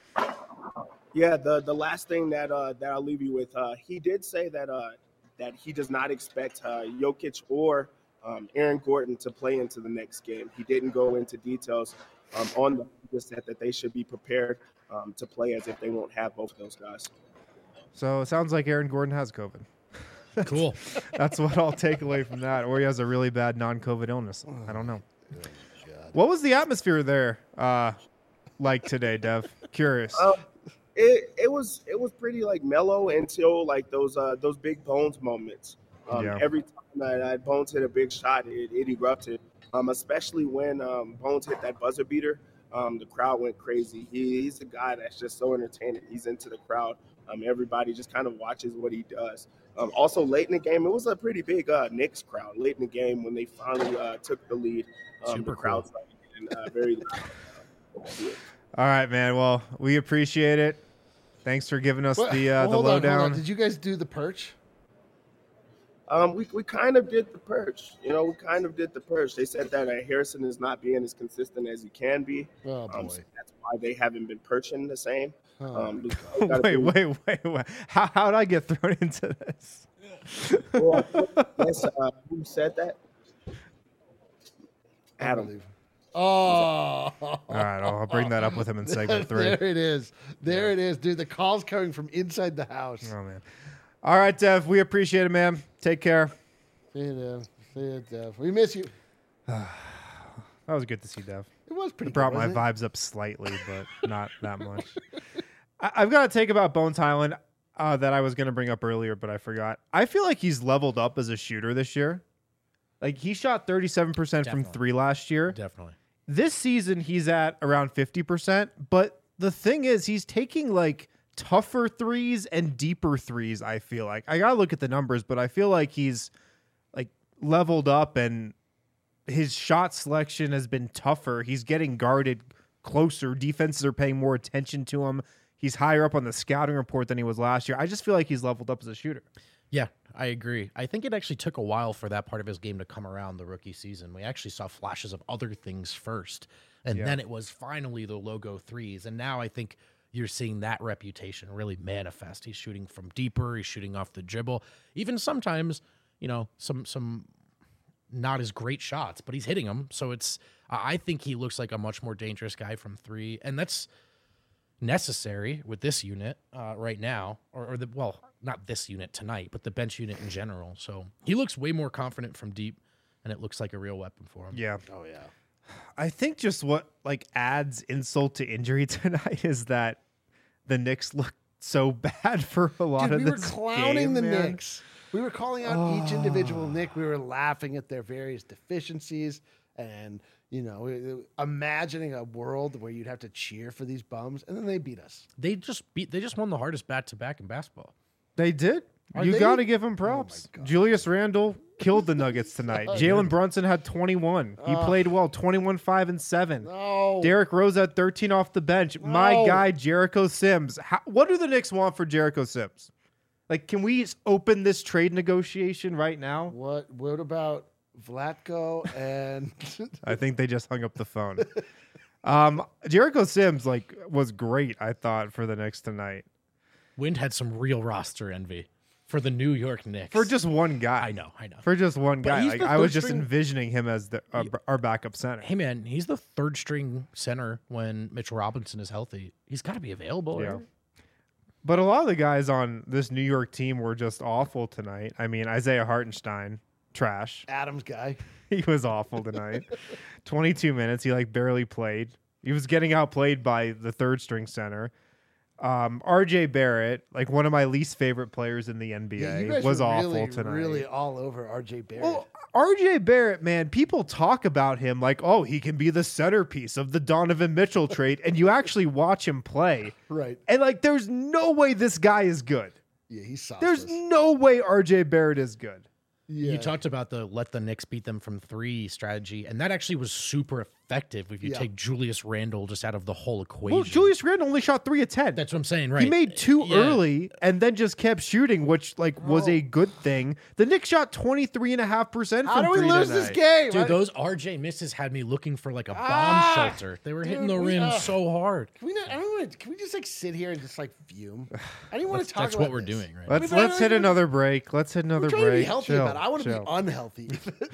Yeah, the last thing that I'll leave you with, he did say that he does not expect Jokic or Aaron Gordon to play into the next game. He didn't go into details on them. He just said that they should be prepared to play as if they won't have both of those guys. So it sounds like Aaron Gordon has COVID. Cool. That's what I'll take away from that. Or he has a really bad non-COVID illness. I don't know. What was the atmosphere there like today, Dev? Curious. It was pretty mellow until those big Bones moments. Every time that Bones hit a big shot, it erupted. especially when Bones hit that buzzer beater. The crowd went crazy. He's a guy that's just so entertaining. He's into the crowd. Everybody just kind of watches what he does. Also, late in the game, it was a pretty big Knicks crowd. Late in the game, when they finally took the lead, Super the crowd cool. started getting very loud. All right, man. Well, we appreciate it. Thanks for giving us the hold on, hold lowdown. on. Did you guys do the perch? We kind of did the purge. We kind of did the purge. They said that Harrison is not being as consistent as he can be. Oh boy. So that's why they haven't been perching the same. Wait. How did I get thrown into this? Well, yes, who said that? Adam. Unbelievable. Oh. All right, I'll bring that up with him in segment 3. There it is. There it is, dude. The call's coming from inside the house. Oh man. All right, Dev. We appreciate it, man. Take care. See you, Dev. See you, Dev. We miss you. That was good to see Dev. It was pretty It brought good, my wasn't it? vibes up slightly, but not that much. I've got to take about Bones Highland that I was going to bring up earlier, but I forgot. I feel like he's leveled up as a shooter this year. Like, he shot 37% from Definitely. 3 last year. Definitely. This season, he's at around 50%. But the thing is, he's taking, like, tougher threes and deeper threes, I feel like. I got to look at the numbers, but I feel like he's, like, leveled up and his shot selection has been tougher. He's getting guarded closer. Defenses are paying more attention to him. He's higher up on the scouting report than he was last year. I just feel like he's leveled up as a shooter. Yeah, I agree. I think it actually took a while for that part of his game to come around the rookie season. We actually saw flashes of other things first, and then it was finally the logo threes. And now I think you're seeing that reputation really manifest. He's shooting from deeper. He's shooting off the dribble. Even sometimes, some not as great shots, but he's hitting them. So I think he looks like a much more dangerous guy from 3, and that's necessary with this unit right now, not this unit tonight, but the bench unit in general. So he looks way more confident from deep, and it looks like a real weapon for him. Yeah. Oh, yeah. I think just what adds insult to injury tonight is that the Knicks look so bad for a lot Dude, of we were this clowning game, the man. Knicks. We were calling out each individual Knick. We were laughing at their various deficiencies and, imagining a world where you'd have to cheer for these bums, and then they beat us. They just won the hardest back-to-back in basketball. They did. Are You they? got to give him props. God. Julius Randle killed the Nuggets tonight. Jalen Brunson had 21. He played well, 21, 5, and 7. No. Derrick Rose had 13 off the bench. My No. guy, Jericho Sims. What do the Knicks want for Jericho Sims? Like, can we open this trade negotiation right now? What about Vlatko and I think they just hung up the phone. Jericho Sims was great, I thought, for the Knicks tonight. Wind had some real roster envy for the New York Knicks. For just one guy. I know. For just one guy. he's Like, the I was third just string- envisioning him as our backup center. Hey, man, he's the third string center when Mitchell Robinson is healthy. He's got to be available. Yeah. Right? But a lot of the guys on this New York team were just awful tonight. I mean, Isaiah Hartenstein, trash. Adams guy? He was awful tonight. 22 minutes. He barely played. He was getting outplayed by the third string center. RJ Barrett, one of my least favorite players in the NBA, you guys was were awful really, tonight. really all over RJ Barrett. Well, RJ Barrett, man, people talk about him like, oh, he can be the centerpiece of the Donovan Mitchell trade, and you actually watch him play, right. and there's no way this guy is good. Yeah, he's sauceless. There's no way RJ Barrett is good. Yeah. You talked about the let the Knicks beat them from 3 strategy, and that actually was super effective if you Yeah. take Julius Randle just out of the whole equation. Well, Julius Randle only shot 3 of 10. That's what I'm saying, right? He made 2 Yeah. early and then just kept shooting, which was a good thing. The Knicks shot 23.5% How from do we 3 lose tonight. this game? Dude, those RJ misses had me looking for a bomb shelter. They were hitting dude, the we- rim so hard. Can we not, I don't wanna, can we just sit here and just fume? I didn't want to talk That's about what we're this. doing, right? Let's hit another break. Let's hit another I'm trying to break. be healthy Chill, about it. I want to chill. be unhealthy.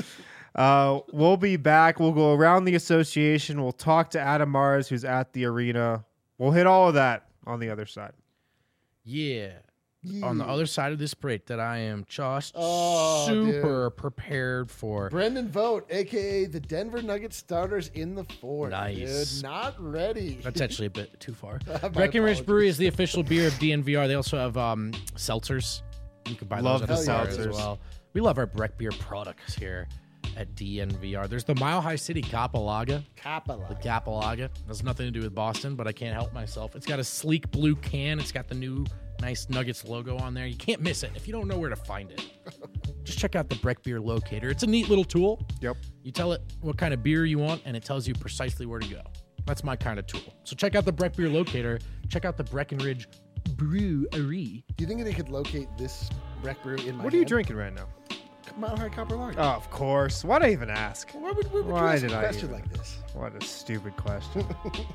We'll be back. We'll go around the association. We'll talk to Adam Mars, who's at the arena. We'll hit all of that on the other side. Yeah. On the other side of this break that I am just Oh, super prepared for. Brendan Vogt, a.k.a. the Denver Nuggets starters in the fourth. Nice. Dude, not ready. That's actually a bit too far. My Breckenridge apologies. Brewery is the official beer of DNVR. They also have seltzers. You can buy Love those at the the bar seltzers. as well. We love our Breck beer products here at DNVR. There's the Mile High City Capalaga. Capella. The Capalaga. Has nothing to do with Boston, but I can't help myself. It's got a sleek blue can. It's got the new nice Nuggets logo on there. You can't miss it if you don't know where to find it. Just check out the Breck Beer Locator. It's a neat little tool. Yep. You tell it what kind of beer you want, and it tells you precisely where to go. That's my kind of tool. So check out the Breck Beer Locator. Check out the Breckenridge Brewery. Do you think they could locate this Breck Brew in my What are you hand? drinking right now? Mile High Copper Lager. Oh, of course. Why'd I even ask? Why would you Why ask did a I question even- like this? What a stupid question.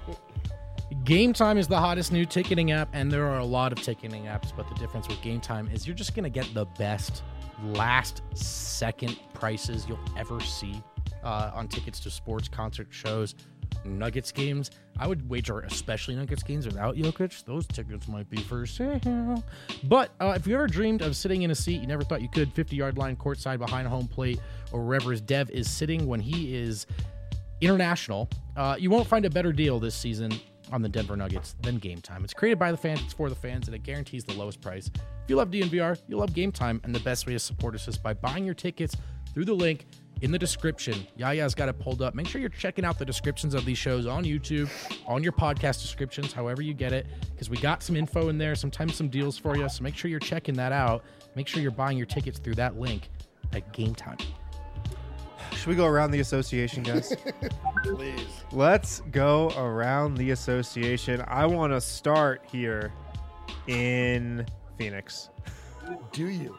Game Time is the hottest new ticketing app, and there are a lot of ticketing apps, but the difference with Game Time is you're just going to get the best last second prices you'll ever see on tickets to sports, concert, shows, Nuggets games. I would wager, especially Nuggets games without Jokic, those tickets might be for sale. But if you ever dreamed of sitting in a seat you never thought you could, 50-yard line, courtside, behind home plate, or wherever his Dev is sitting when he is international, you won't find a better deal this season on the Denver Nuggets than Game Time. It's created by the fans, it's for the fans, and it guarantees the lowest price. If you love DNVR, you love Game Time, and the best way to support us is by buying your tickets through the link in the description. Yaya's got it pulled up. Make sure you're checking out the descriptions of these shows on YouTube, on your podcast descriptions, however you get it, because we got some info in there, sometimes some deals for you, so make sure you're checking that out. Make sure you're buying your tickets through that link at Game Time. Should we go around the association, guys? Please. Let's go around the association. I want to start here in Phoenix. Do you?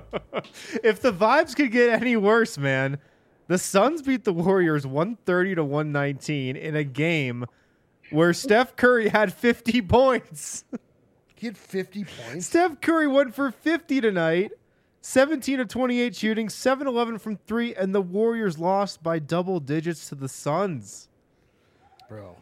If the vibes could get any worse, man, the Suns beat the Warriors 130-119 in a game where Steph Curry had 50 points. He had 50 points. Steph Curry went for 50 tonight, 17 of 28 shooting, 7-11 from 3, and the Warriors lost by double digits to the Suns. Bro.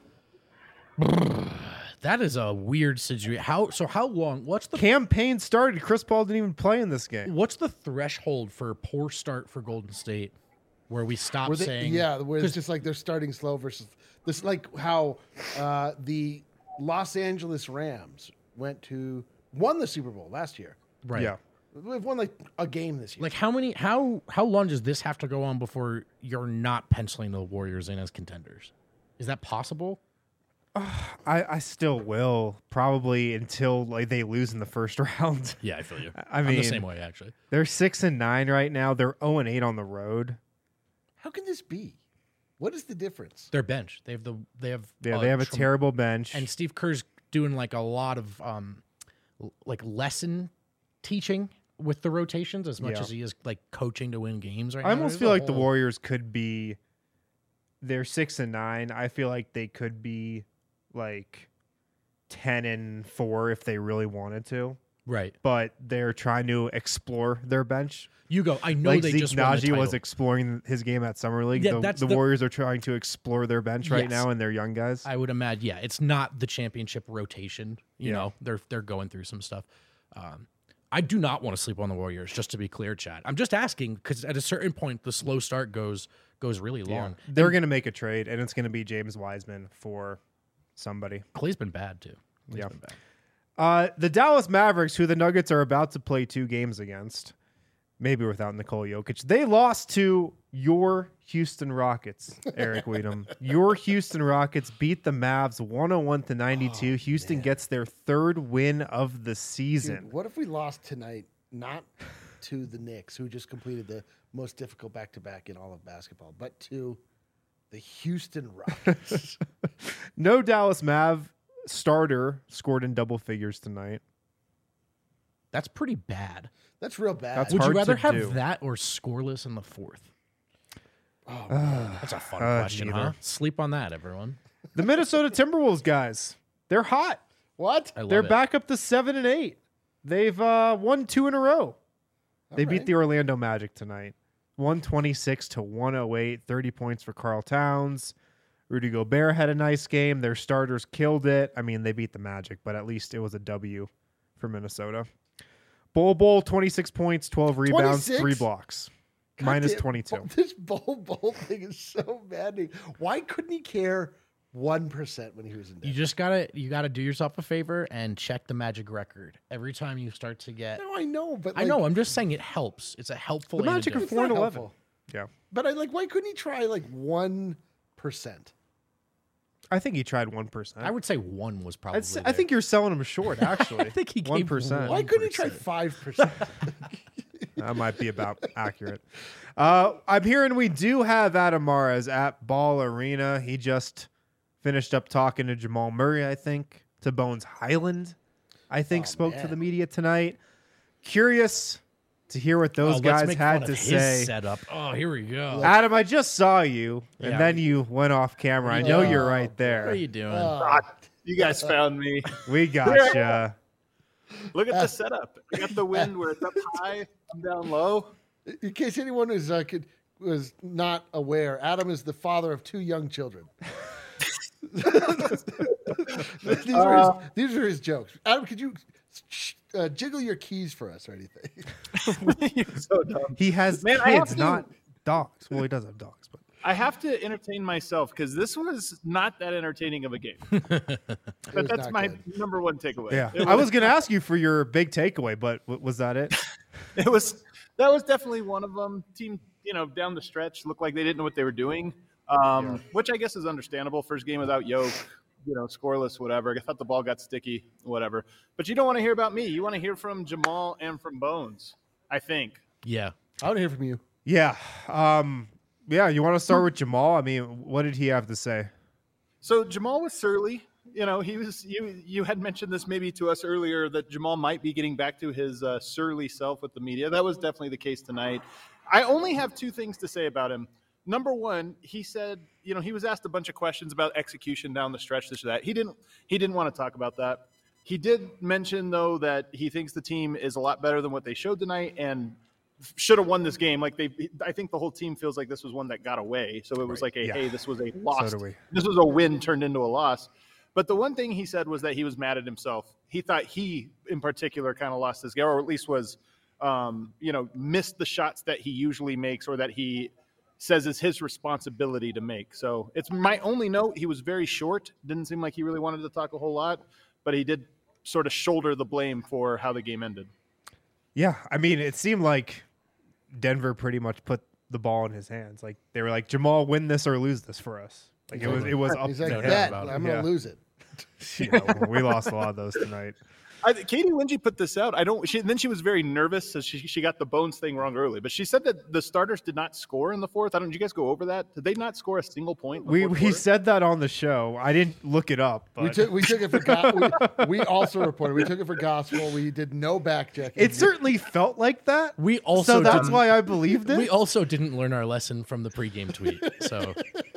That is a weird situation. How long? What's the Campaign started. Chris Paul didn't even play in this game. What's the threshold for a poor start for Golden State, where we stop Where they, saying, yeah, where it's just like they're starting slow versus this, like how the Los Angeles Rams won the Super Bowl last year. right? Yeah. We've won like a game this year. Like how long does this have to go on before you're not penciling the Warriors in as contenders? Is that possible? I still will, probably until like they lose in the first round. Yeah, I feel you. I'm I'm the the same way actually. They're 6-9 right now. They're 0-8 on the road. How can this be? What is the difference? Their bench. They have They have a terrible bench. and Steve Kerr's doing like a lot of like lesson teaching with the rotations as much Yeah. as he is like coaching to win games right I now. almost There's feel a like the whole- Warriors could be. They're 6-9. I feel like they could be like 10-4 if they really wanted to. Right. But they're trying to explore their bench. You go. I know Like they Zeke just won the Naji was title. exploring his game at Summer League. Yeah, that's the the- Warriors are trying to explore their bench right Yes. now and their young guys. I would imagine. Yeah, it's not the championship rotation. You Yeah. know, they're going through some stuff. I do not want to sleep on the Warriors. Just to be clear, Chad. I'm just asking because at a certain point, the slow start goes really long. They're going to make a trade, and it's going to be James Wiseman for somebody. Clay's been bad too. Clay's Yeah. been bad. The Dallas Mavericks, who the Nuggets are about to play 2 games against, maybe without Nikola Jokic, they lost to your Houston Rockets, Eric Weedham. Your Houston Rockets beat the Mavs 101-92. Houston gets their 3rd win of the season. Dude, what if we lost tonight, not to the Knicks, who just completed the most difficult back-to-back in all of basketball, but to the Houston Rockets? No Dallas Mav starter scored in double figures tonight. That's pretty bad. That's real bad. That's Would you hard rather to have do. that or scoreless in the 4th? Oh, man. That's a fun question, huh? neither. Sleep on that, everyone. The Minnesota Timberwolves guys, they're hot. What? I love They're it. back up to 7-8. They've won 2 in a row. They All beat right. the Orlando Magic tonight, 126-108. 30 points for Karl Towns. Rudy Gobert had a nice game. Their starters killed it. I mean, they beat the Magic, but at least it was a W for Minnesota. Bol 26 points, 12 rebounds, 26? 3 blocks. God Minus damn, 22. This bowl thing is so maddening. Why couldn't he care 1% when he was in You Denver? just gotta do yourself a favor and check the Magic record every time you start to get. No, I know, but I know. I'm just saying it helps. It's a helpful. The Magic are antidote. It's not 4-11. helpful. Yeah. But why couldn't he try 1%? I think he tried 1%. I would say 1 was probably. I think you're selling him short, actually. I think he gave 1%. Why couldn't he try 5%? That might be about accurate. I'm hearing we do have Adam Mares at Ball Arena. He just finished up talking to Jamal Murray, I think, to Bones Highland, I think, spoke to the media tonight. Curious to hear what those guys had to say. Setup. Oh, here we go. Adam, I just saw you, and Yeah. then you went off camera. I know you're right What there. are you doing? You guys found me. We gotcha. Look at the setup. I got the wind where it's up high, I'm down low. In case anyone was not aware, Adam is the father of 2 young children. These are his jokes. Adam, could you jiggle your keys for us or anything? You're so dumb. He has Man, I have kids, to- not dogs. Well, he does have dogs, but I have to entertain myself because this was not that entertaining of a game. But that's not my good. number one takeaway. yeah. It I was going to ask you for your big takeaway, but was that it? That was definitely one of them. Team, down the stretch looked like they didn't know what they were doing, which I guess is understandable. First game without Yoke, scoreless, whatever. I thought the ball got sticky, whatever. But you don't want to hear about me. You want to hear from Jamal and from Bones, I think. Yeah. I want to hear from you. Yeah. Yeah, you want to start with Jamal? I mean, what did he have to say? So Jamal was surly. He was. You had mentioned this maybe to us earlier that Jamal might be getting back to his surly self with the media. That was definitely the case tonight. I only have 2 things to say about him. Number one, he said, he was asked a bunch of questions about execution down the stretch, this or that. He didn't want to talk about that. He did mention though that he thinks the team is a lot better than what they showed tonight and should have won this game. I think the whole team feels like this was one that got away. So it was hey, this was a loss. So do we. This was a win turned into a loss. But the one thing he said was that he was mad at himself. He thought he, in particular, kind of lost this game, or at least was, missed the shots that he usually makes or that he says is his responsibility to make. So it's my only note. He was very short. Didn't seem like he really wanted to talk a whole lot, but he did sort of shoulder the blame for how the game ended. Yeah, I mean, it seemed like Denver pretty much put the ball in his hands. Like they were like, Jamal, win this or lose this for us. Like it was up He's to like, him. bet, about it. I'm going to lose it. We lost a lot of those tonight. Katie Wingy put this out. Then she was very nervous, so she got the Bones thing wrong early. But she said that the starters did not score in the fourth. Did you guys go over that? Did they not score a single point? In the fourth We quarter? said that on the show. I didn't look it up, but We took it for we also reported. We took it for gospel. We did no back checking. it certainly felt like that. We also So that's didn't- why I believed it. We also didn't learn our lesson from the pregame tweet. So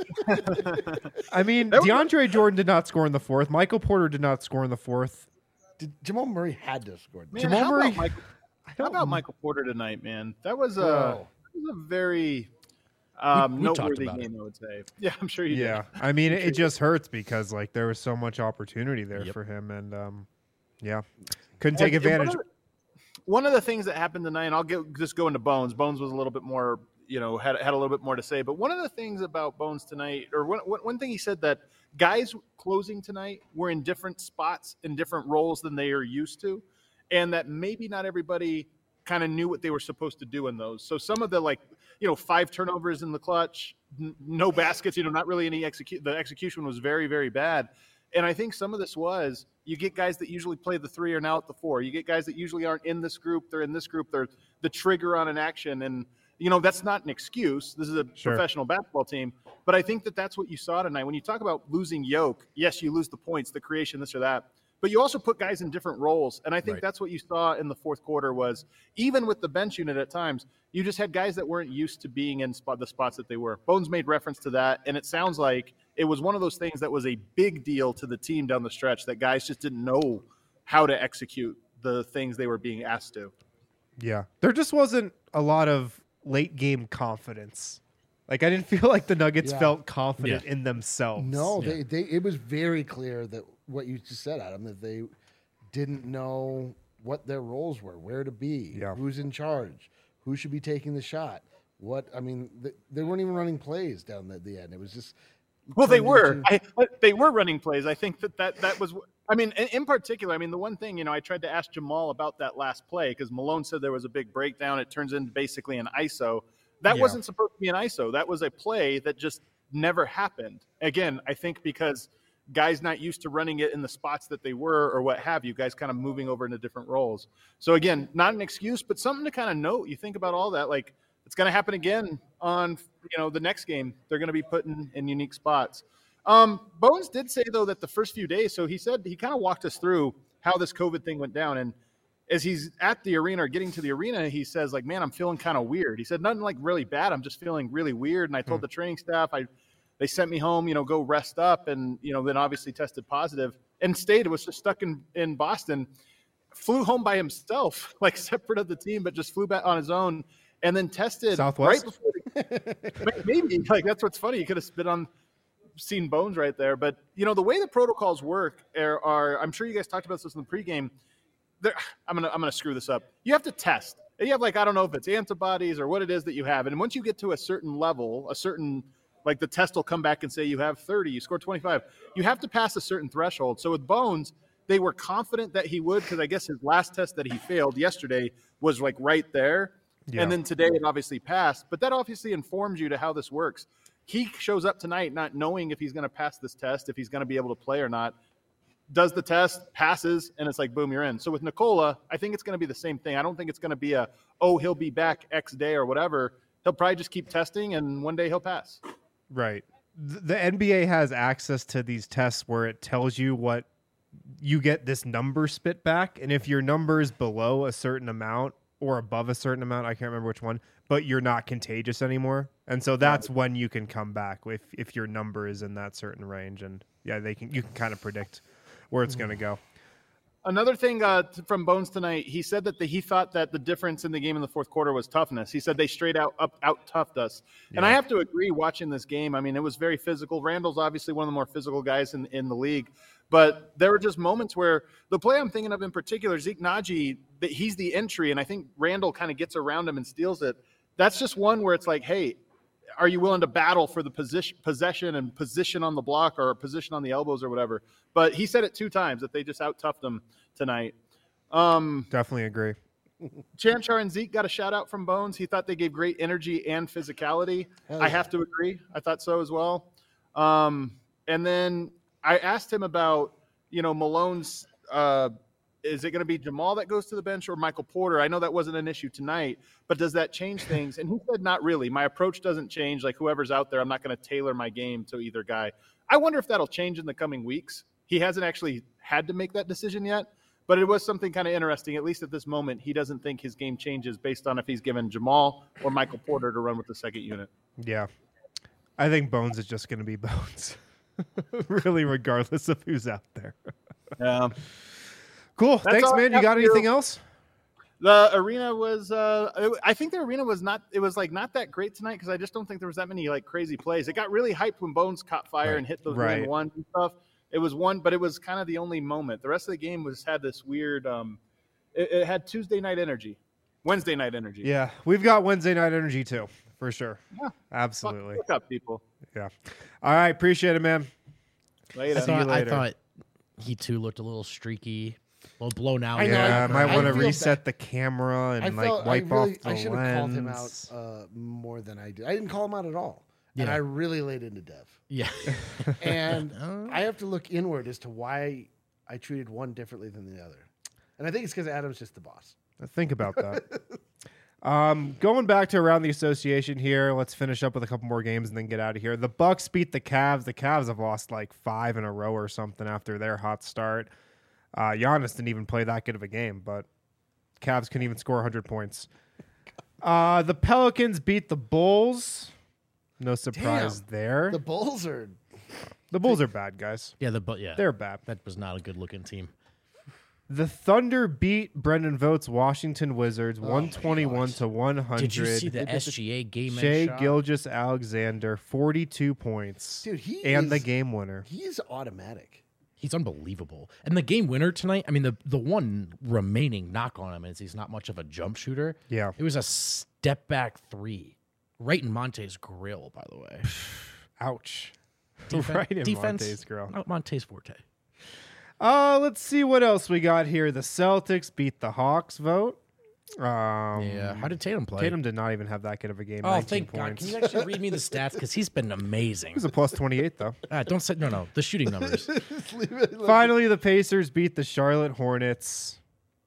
I mean, DeAndre Jordan did not score in the fourth. Michael Porter did not score in the fourth. Jamal Murray had to have scored. Man, Jamal how Murray- About Michael, how about Michael Porter tonight, man? That was a very we talked noteworthy about game, I would say. Yeah, I'm sure you Yeah, did. I mean, it just hurts because like there was so much opportunity there Yep. for him, and couldn't take And advantage. One of the things that happened tonight, and I'll just go into Bones. Bones was a little bit more, had a little bit more to say. But one of the things about Bones tonight, or one thing he said, that guys closing tonight were in different spots in different roles than they are used to, and that maybe not everybody kind of knew what they were supposed to do in those. So some of the 5 turnovers in the clutch, no baskets, not really any the execution was very, very bad. And I think some of this was you get guys that usually play the 3 are now at the 4. You get guys that usually aren't in this group. They're in this group. They're the trigger on an action. And, that's not an excuse. This is a professional basketball team. But I think that that's what you saw tonight. When you talk about losing Yoke, yes, you lose the points, the creation, this or that. But you also put guys in different roles. And I think that's what you saw in the fourth quarter was even with the bench unit at times, you just had guys that weren't used to being in the spots that they were. Bones made reference to that. And it sounds like it was one of those things that was a big deal to the team down the stretch that guys just didn't know how to execute the things they were being asked to. Yeah, there just wasn't a lot of late game confidence. Like I didn't feel like the Nuggets felt confident in themselves. No, it was very clear that what you just said, Adam, that they didn't know what their roles were, where to be, who's in charge, who should be taking the shot. They weren't even running plays down at the end. It was just they were. They were running plays. I think that was. I mean, in particular, the one thing I tried to ask Jamal about that last play because Malone said there was a big breakdown. It turns into basically an ISO. That Yeah. wasn't supposed to be an ISO. That was a play that just never happened. Again, I think because guys not used to running it in the spots that they were or what have you, guys kind of moving over into different roles. So again, not an excuse, but something to kind of note. You think about all that, like it's going to happen again on, the next game. They're going to be put in unique spots. Bones did say though that the first few days, so he said he kind of walked us through how this COVID thing went down. And as he's at the arena or getting to the arena, he says like, man, I'm feeling kind of weird. He said nothing like really bad. I'm just feeling really weird. And I told the training staff, they sent me home, go rest up, and then obviously tested positive and was just stuck in Boston, flew home by himself, like separate of the team, but just flew back on his own, and then tested Southwest? right before maybe like that's what's funny. You could have seen Bones right there, but the way the protocols work are I'm sure you guys talked about this in the pregame. I'm gonna screw this up. You have to test. You have I don't know if it's antibodies or what it is that you have, and once you get to a certain level, like the test will come back and say you have 30, you score 25. You have to pass a certain threshold. So with Bones, they were confident that he would, because I guess his last test that he failed yesterday was like right there. Yeah. And then today it obviously passed. But that obviously informs you to how this works. He shows up tonight not knowing if he's going to pass this test, if he's going to be able to play or not. Does the test, passes, and it's like, boom, you're in. So with Nikola, I think it's going to be the same thing. I don't think it's going to be he'll be back X day or whatever. He'll probably just keep testing, and one day he'll pass. Right. The NBA has access to these tests where it tells you what you get this number spit back. And if your number is below a certain amount or above a certain amount, I can't remember which one, but you're not contagious anymore. And so that's when you can come back if your number is in that certain range. And yeah, you can kind of predict where it's going to go. Another thing from Bones tonight, he said that he thought that the difference in the game in the fourth quarter was toughness. He said they straight out toughed us. Yeah. And I have to agree watching this game. I mean, it was very physical. Randall's obviously one of the more physical guys in the league. But there were just moments where the play I'm thinking of in particular, Zeke Naji, he's the entry, and I think Randall kind of gets around him and steals it. That's just one where it's like, hey, are you willing to battle for the possession and position on the block or position on the elbows or whatever? But he said it 2 times that they just out-toughed him tonight. Definitely agree. Chanchar and Zeke got a shout-out from Bones. He thought they gave great energy and physicality. Yeah. I have to agree. I thought so as well. And then I asked him about, Malone's is it going to be Jamal that goes to the bench or Michael Porter? I know that wasn't an issue tonight, but does that change things? And he said, not really. My approach doesn't change. Like whoever's out there, I'm not going to tailor my game to either guy. I wonder if that'll change in the coming weeks. He hasn't actually had to make that decision yet, but it was something kind of interesting. At least at this moment, he doesn't think his game changes based on if he's given Jamal or Michael Porter to run with the second unit. Yeah. I think Bones is just going to be Bones. Really, regardless of who's out there. Yeah. Cool. Thanks, man. You got anything else? The arena was, I think the arena was not that great tonight because I just don't think there was that many crazy plays. It got really hyped when Bones caught fire and hit those one and stuff. It was one, but it was kind of the only moment. The rest of the game had this weird, it had Wednesday night energy. Yeah, we've got Wednesday night energy too, for sure. Yeah, absolutely. Look up, people. Yeah. All right, appreciate it, man. Later. See you later. I thought he too looked a little streaky. Well, blown out. I might want to reset the camera and wipe off the I should have called him out lens. more than I did. I didn't call him out at all. Yeah. And I really laid into Dev. Yeah. And I have to look inward as to why I treated one differently than the other. And I think it's because Adam's just the boss. Think about that. Going back to around the association here, let's finish up with a couple more games and then get out of here. The Bucks beat the Cavs. The Cavs have lost 5 in a row or something after their hot start. Giannis didn't even play that good of a game, but Cavs couldn't even score 100 points. The Pelicans beat the Bulls. No surprise there. The Bulls are bad, guys. Yeah, they're bad. That was not a good looking team. The Thunder beat Brendan Vogt's Washington Wizards 121 to 100. Did you see the SGA game? Shai Gilgeous-Alexander 42 points. Dude, the game winner. He is automatic. He's unbelievable. And the game winner tonight, I mean, the one remaining knock on him is he's not much of a jump shooter. Yeah. It was a step back 3 right in Monte's grill, by the way. Ouch. Right in Monte's grill. Not Monte's forte. Let's see what else we got here. The Celtics beat the Hawks vote. Yeah. How did Tatum play? Tatum did not even have that good of a game. Oh, 19 thank God. points. Can you actually read me the stats? Because he's been amazing. He was a plus 28 though. Don't say no. The shooting numbers. Finally, the Pacers beat the Charlotte Hornets.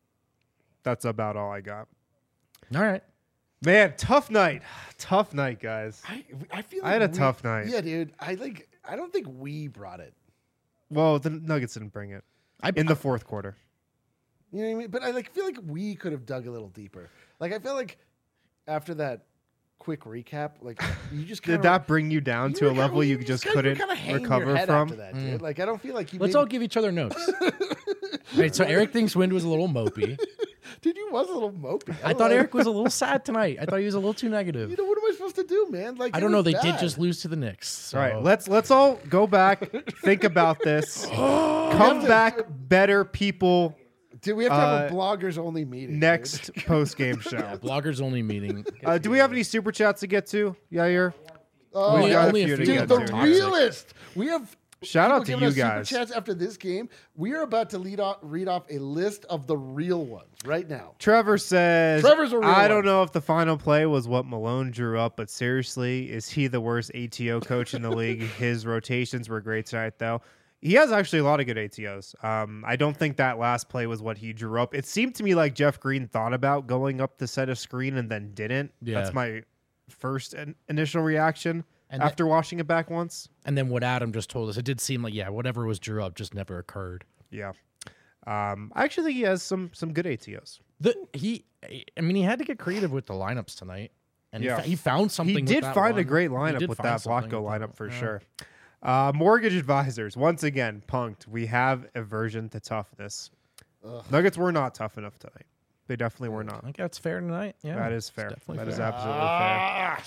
That's about all I got. All right. Man, tough night. Tough night, guys. I feel I had a tough night. Yeah, dude. I don't think we brought it. Well, the Nuggets didn't bring it in the fourth quarter. You know what I mean? But I feel like we could have dug a little deeper. Like I feel like after that quick recap, like you just Did that bring you down to a level you just couldn't recover from? After that, dude. Like I don't feel like you. Let's all give each other notes. Right. So Eric thinks Wind was a little mopey. Dude, you was a little mopey. I thought Eric was a little sad tonight. I thought he was a little too negative. You know what am I supposed to do, man? Like I don't know. They did just lose to the Knicks. So. All right, let's all go back, think about this, come back better people. Dude, we have to have a bloggers only meeting next post game show. Yeah, bloggers only meeting. Do we have any super chats to get to, Yair? Oh, We got only a a few to few. get dude, the to. realist. We have Shout out people to giving you us guys. Super chats after this game. We are about to read off a list of the real ones right now. Trevor says, Trevor's a real I don't one. know if the final play was what Malone drew up, but seriously, is he the worst ATO coach in the league? His rotations were great tonight, though. He has actually a lot of good ATOs. I don't think that last play was what he drew up. It seemed to me like Jeff Green thought about going up the set of screen and then didn't. Yeah. That's my first initial reaction And after watching it back once. And then what Adam just told us, it did seem like whatever was drew up just never occurred. Yeah. I actually think he has some good ATOs. He had to get creative with the lineups tonight, and Yeah. he found something. He with did that find a one. great He lineup did with find that something Blocko with that lineup for one. sure. Mortgage advisors, once again, punked. We have aversion to toughness. Nuggets were not tough enough tonight. They definitely were I not. think that's fair tonight. Yeah, That is it's fair. definitely That is fair. absolutely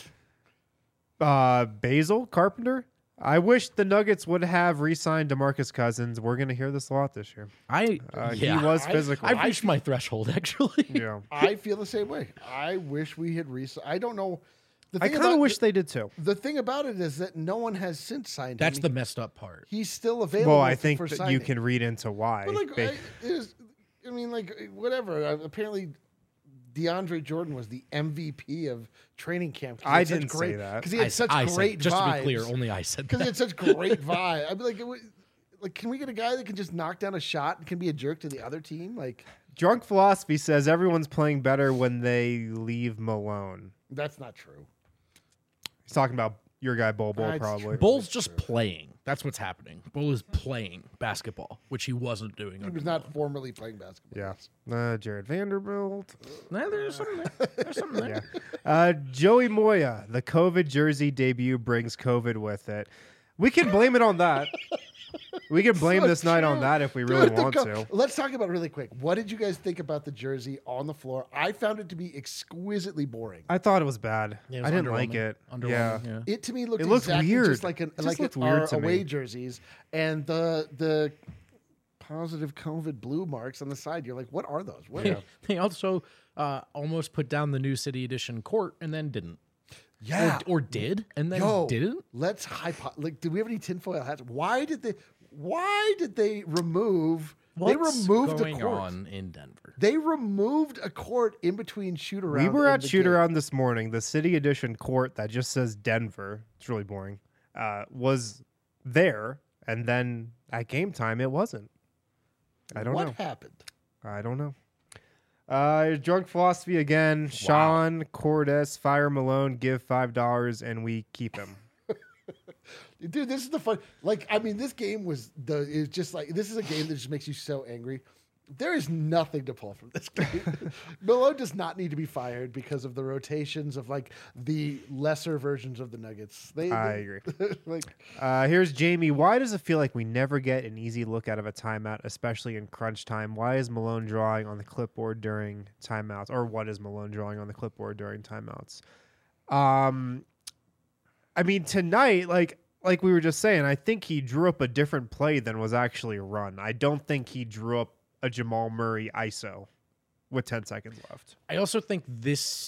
fair. Basil Carpenter. I wish the Nuggets would have re-signed DeMarcus Cousins. We're going to hear this a lot this year. He was physical. I've reached my threshold actually. Yeah. I feel the same way. I wish we had I don't know. The I thing kind of about- wish they did too. The thing about it is that no one has since signed That's him. the messed up part. He's still available. Well, I think for that signing. you can read into why. But like, whatever. Apparently, DeAndre Jordan was the MVP of training camp. I didn't say that. because he had such I great said, just vibes. to be clear, only I said Because he that. had such great vibe. I'd be like, can we get a guy that can just knock down a shot and can be a jerk to the other team? Like, Drunk Philosophy says everyone's playing better when they leave Malone. that's not true. He's talking about your guy Bol Bol, That's probably. true. Bull's just playing. That's what's happening. Bull is playing basketball, which he wasn't doing. He was not formerly playing basketball. Yeah. Jared Vanderbilt. Nah, there's something there. There's something there. Yeah. Joey Moya, the COVID jersey debut brings COVID with it. We can blame it on that. We can blame So this night on true. that if we really Dude, the want to. Let's talk about it really quick. What did you guys think about the jersey on the floor? I found it to be exquisitely boring. I thought it was bad. Yeah, it was I didn't like underwhelming. it. Yeah. Underwhelming, yeah. It to me looked It looked exactly weird. just like It just like looked our weird to away me. jerseys, and the positive COVID blue marks on the side. You're like, what are those? What are They also almost put down the new City Edition court and then didn't. Yeah. Or did and then Yo, didn't. let's like. Do we have any tinfoil hats? Why did they remove? They removed going a court. on in Denver? They removed a court in between shoot around. We were and at the shoot game. around this morning. The city edition court that just says Denver, it's really boring, was there. And then at game time, it wasn't. I don't know. What happened? I don't know. Drunk Philosophy again. Sean Cordes, fire Malone, give $5, and we keep him. Dude, this is the fun. Like, I mean, this game is just like, this is a game that just makes you so angry. There is nothing to pull from this game. Malone does not need to be fired because of the rotations of like the lesser versions of the Nuggets. I agree. Like, Here's Jamie. Why does it feel like we never get an easy look out of a timeout, especially in crunch time? Why is Malone drawing on the clipboard during timeouts? Or what is Malone drawing on the clipboard during timeouts? I mean, tonight, like we were just saying, I think he drew up a different play than was actually run. I don't think he drew up a Jamal Murray ISO with 10 seconds left. I also think there's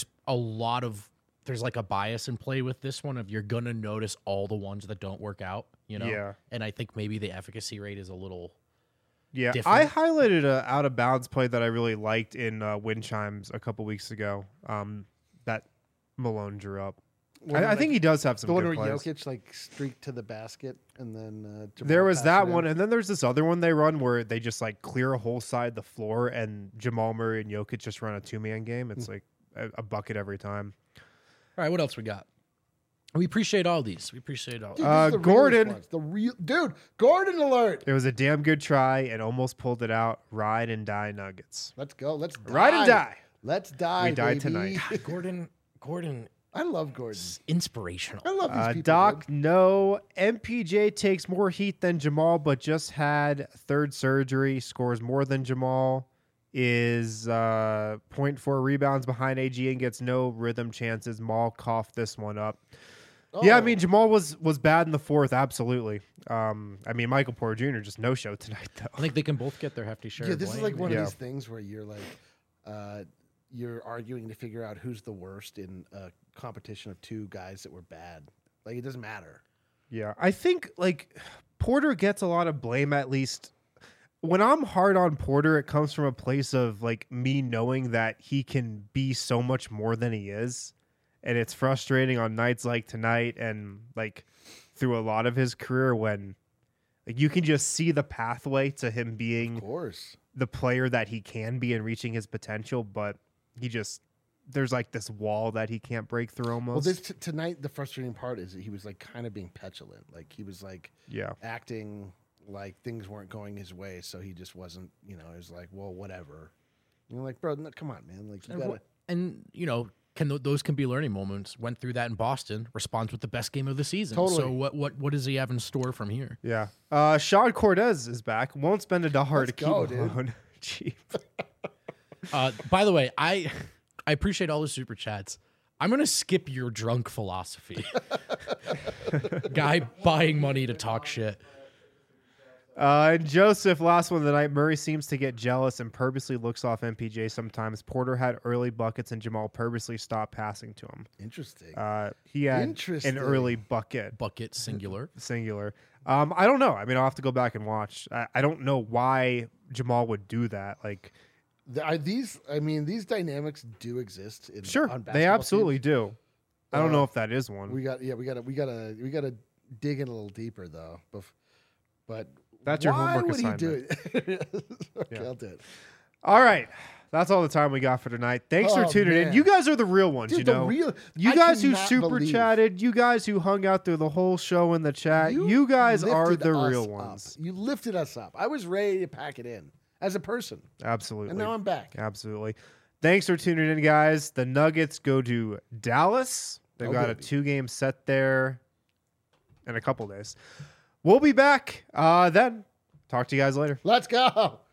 like a bias in play with this one of you're gonna notice all the ones that don't work out, you know? Yeah. And I think maybe the efficacy rate is a little Yeah, different. I highlighted a out of bounds play that I really liked in Wind Chimes a couple weeks ago. That Malone drew up. I think he does have some the one good where plays. Jokic like streaked to the basket and then Jamal There was passed that it in. one, and then there's this other one they run where they just like clear a whole side of the floor, and Jamal Murray and Jokic just run a 2-man game. It's like a bucket every time. All right, what else we got? We appreciate all these. We appreciate all. Dude, this is the Gordon. realest ones. Dude, Gordon alert. It was a damn good try and almost pulled it out. Ride and die Nuggets. Let's go. Let's die. Ride and die. Let's die. We died baby. tonight. Gordon, I love Gordon. inspirational. I love these people. Doc, dude. no. MPJ takes more heat than Jamal, but just had third surgery. Scores more than Jamal. Is 0.4 rebounds behind AG and gets no rhythm chances. Maul coughed this one up. Yeah, I Oh. mean Jamal was bad in the fourth, absolutely. I mean Michael Porter Jr. just no show tonight though. I think they can both get their hefty share. Yeah, of this is blame. like one Yeah. of these things where you're like, you're arguing to figure out who's the worst in a competition of two guys that were bad. Like it doesn't matter. Yeah, I think like Porter gets a lot of blame at least. When I'm hard on Porter, it comes from a place of like me knowing that he can be so much more than he is. And it's frustrating on nights like tonight and like through a lot of his career when like you can just see the pathway to him Of being course. the player that he can be and reaching his potential, but he just there's like this wall that he can't break through almost. Well, this tonight, the frustrating part is that he was like kind of being petulant. Like he was like yeah. acting like things weren't going his way, so he just wasn't. You know, it was like, well, whatever. You're like, bro, no, come on, man. Like you gotta. And you know, those can be learning moments. Went through that in Boston. Responds with the best game of the season. Totally. So what does he have in store from here? Yeah. Sean Cortez is back. Won't spend $1 to Let's keep go, him dude. alone. Cheap. By the way, I appreciate all the super chats. I'm gonna skip your drunk philosophy. Guy buying money to talk shit. And Joseph, last one of the night. Murray seems to get jealous and purposely looks off MPJ sometimes. Porter had early buckets and Jamal purposely stopped passing to him. Interesting. He had Interesting. an early bucket, Bucket singular. singular. I don't know. I mean, I'll have to go back and watch. I don't know why Jamal would do that. Like, These dynamics do exist. sure, on they basketball absolutely teams. do. I don't know if that is one. We gotta dig in a little deeper though. But That's your why homework would assignment. he do it? Okay, Yeah. I'll do it. All right. That's all the time we got for tonight. Thanks for Oh, tuning in. man. You guys are the real ones, Dude, you the know. real- You I guys who cannot super believe chatted, you guys who hung out through the whole show in the chat, you guys are lifted the us real up. ones. You lifted us up. I was ready to pack it in as a person, Absolutely. and now I'm back. Absolutely. Thanks for tuning in, guys. The Nuggets go to Dallas. They've Oh, got baby. a 2-game set there in a couple days. We'll be back then. Talk to you guys later. Let's go.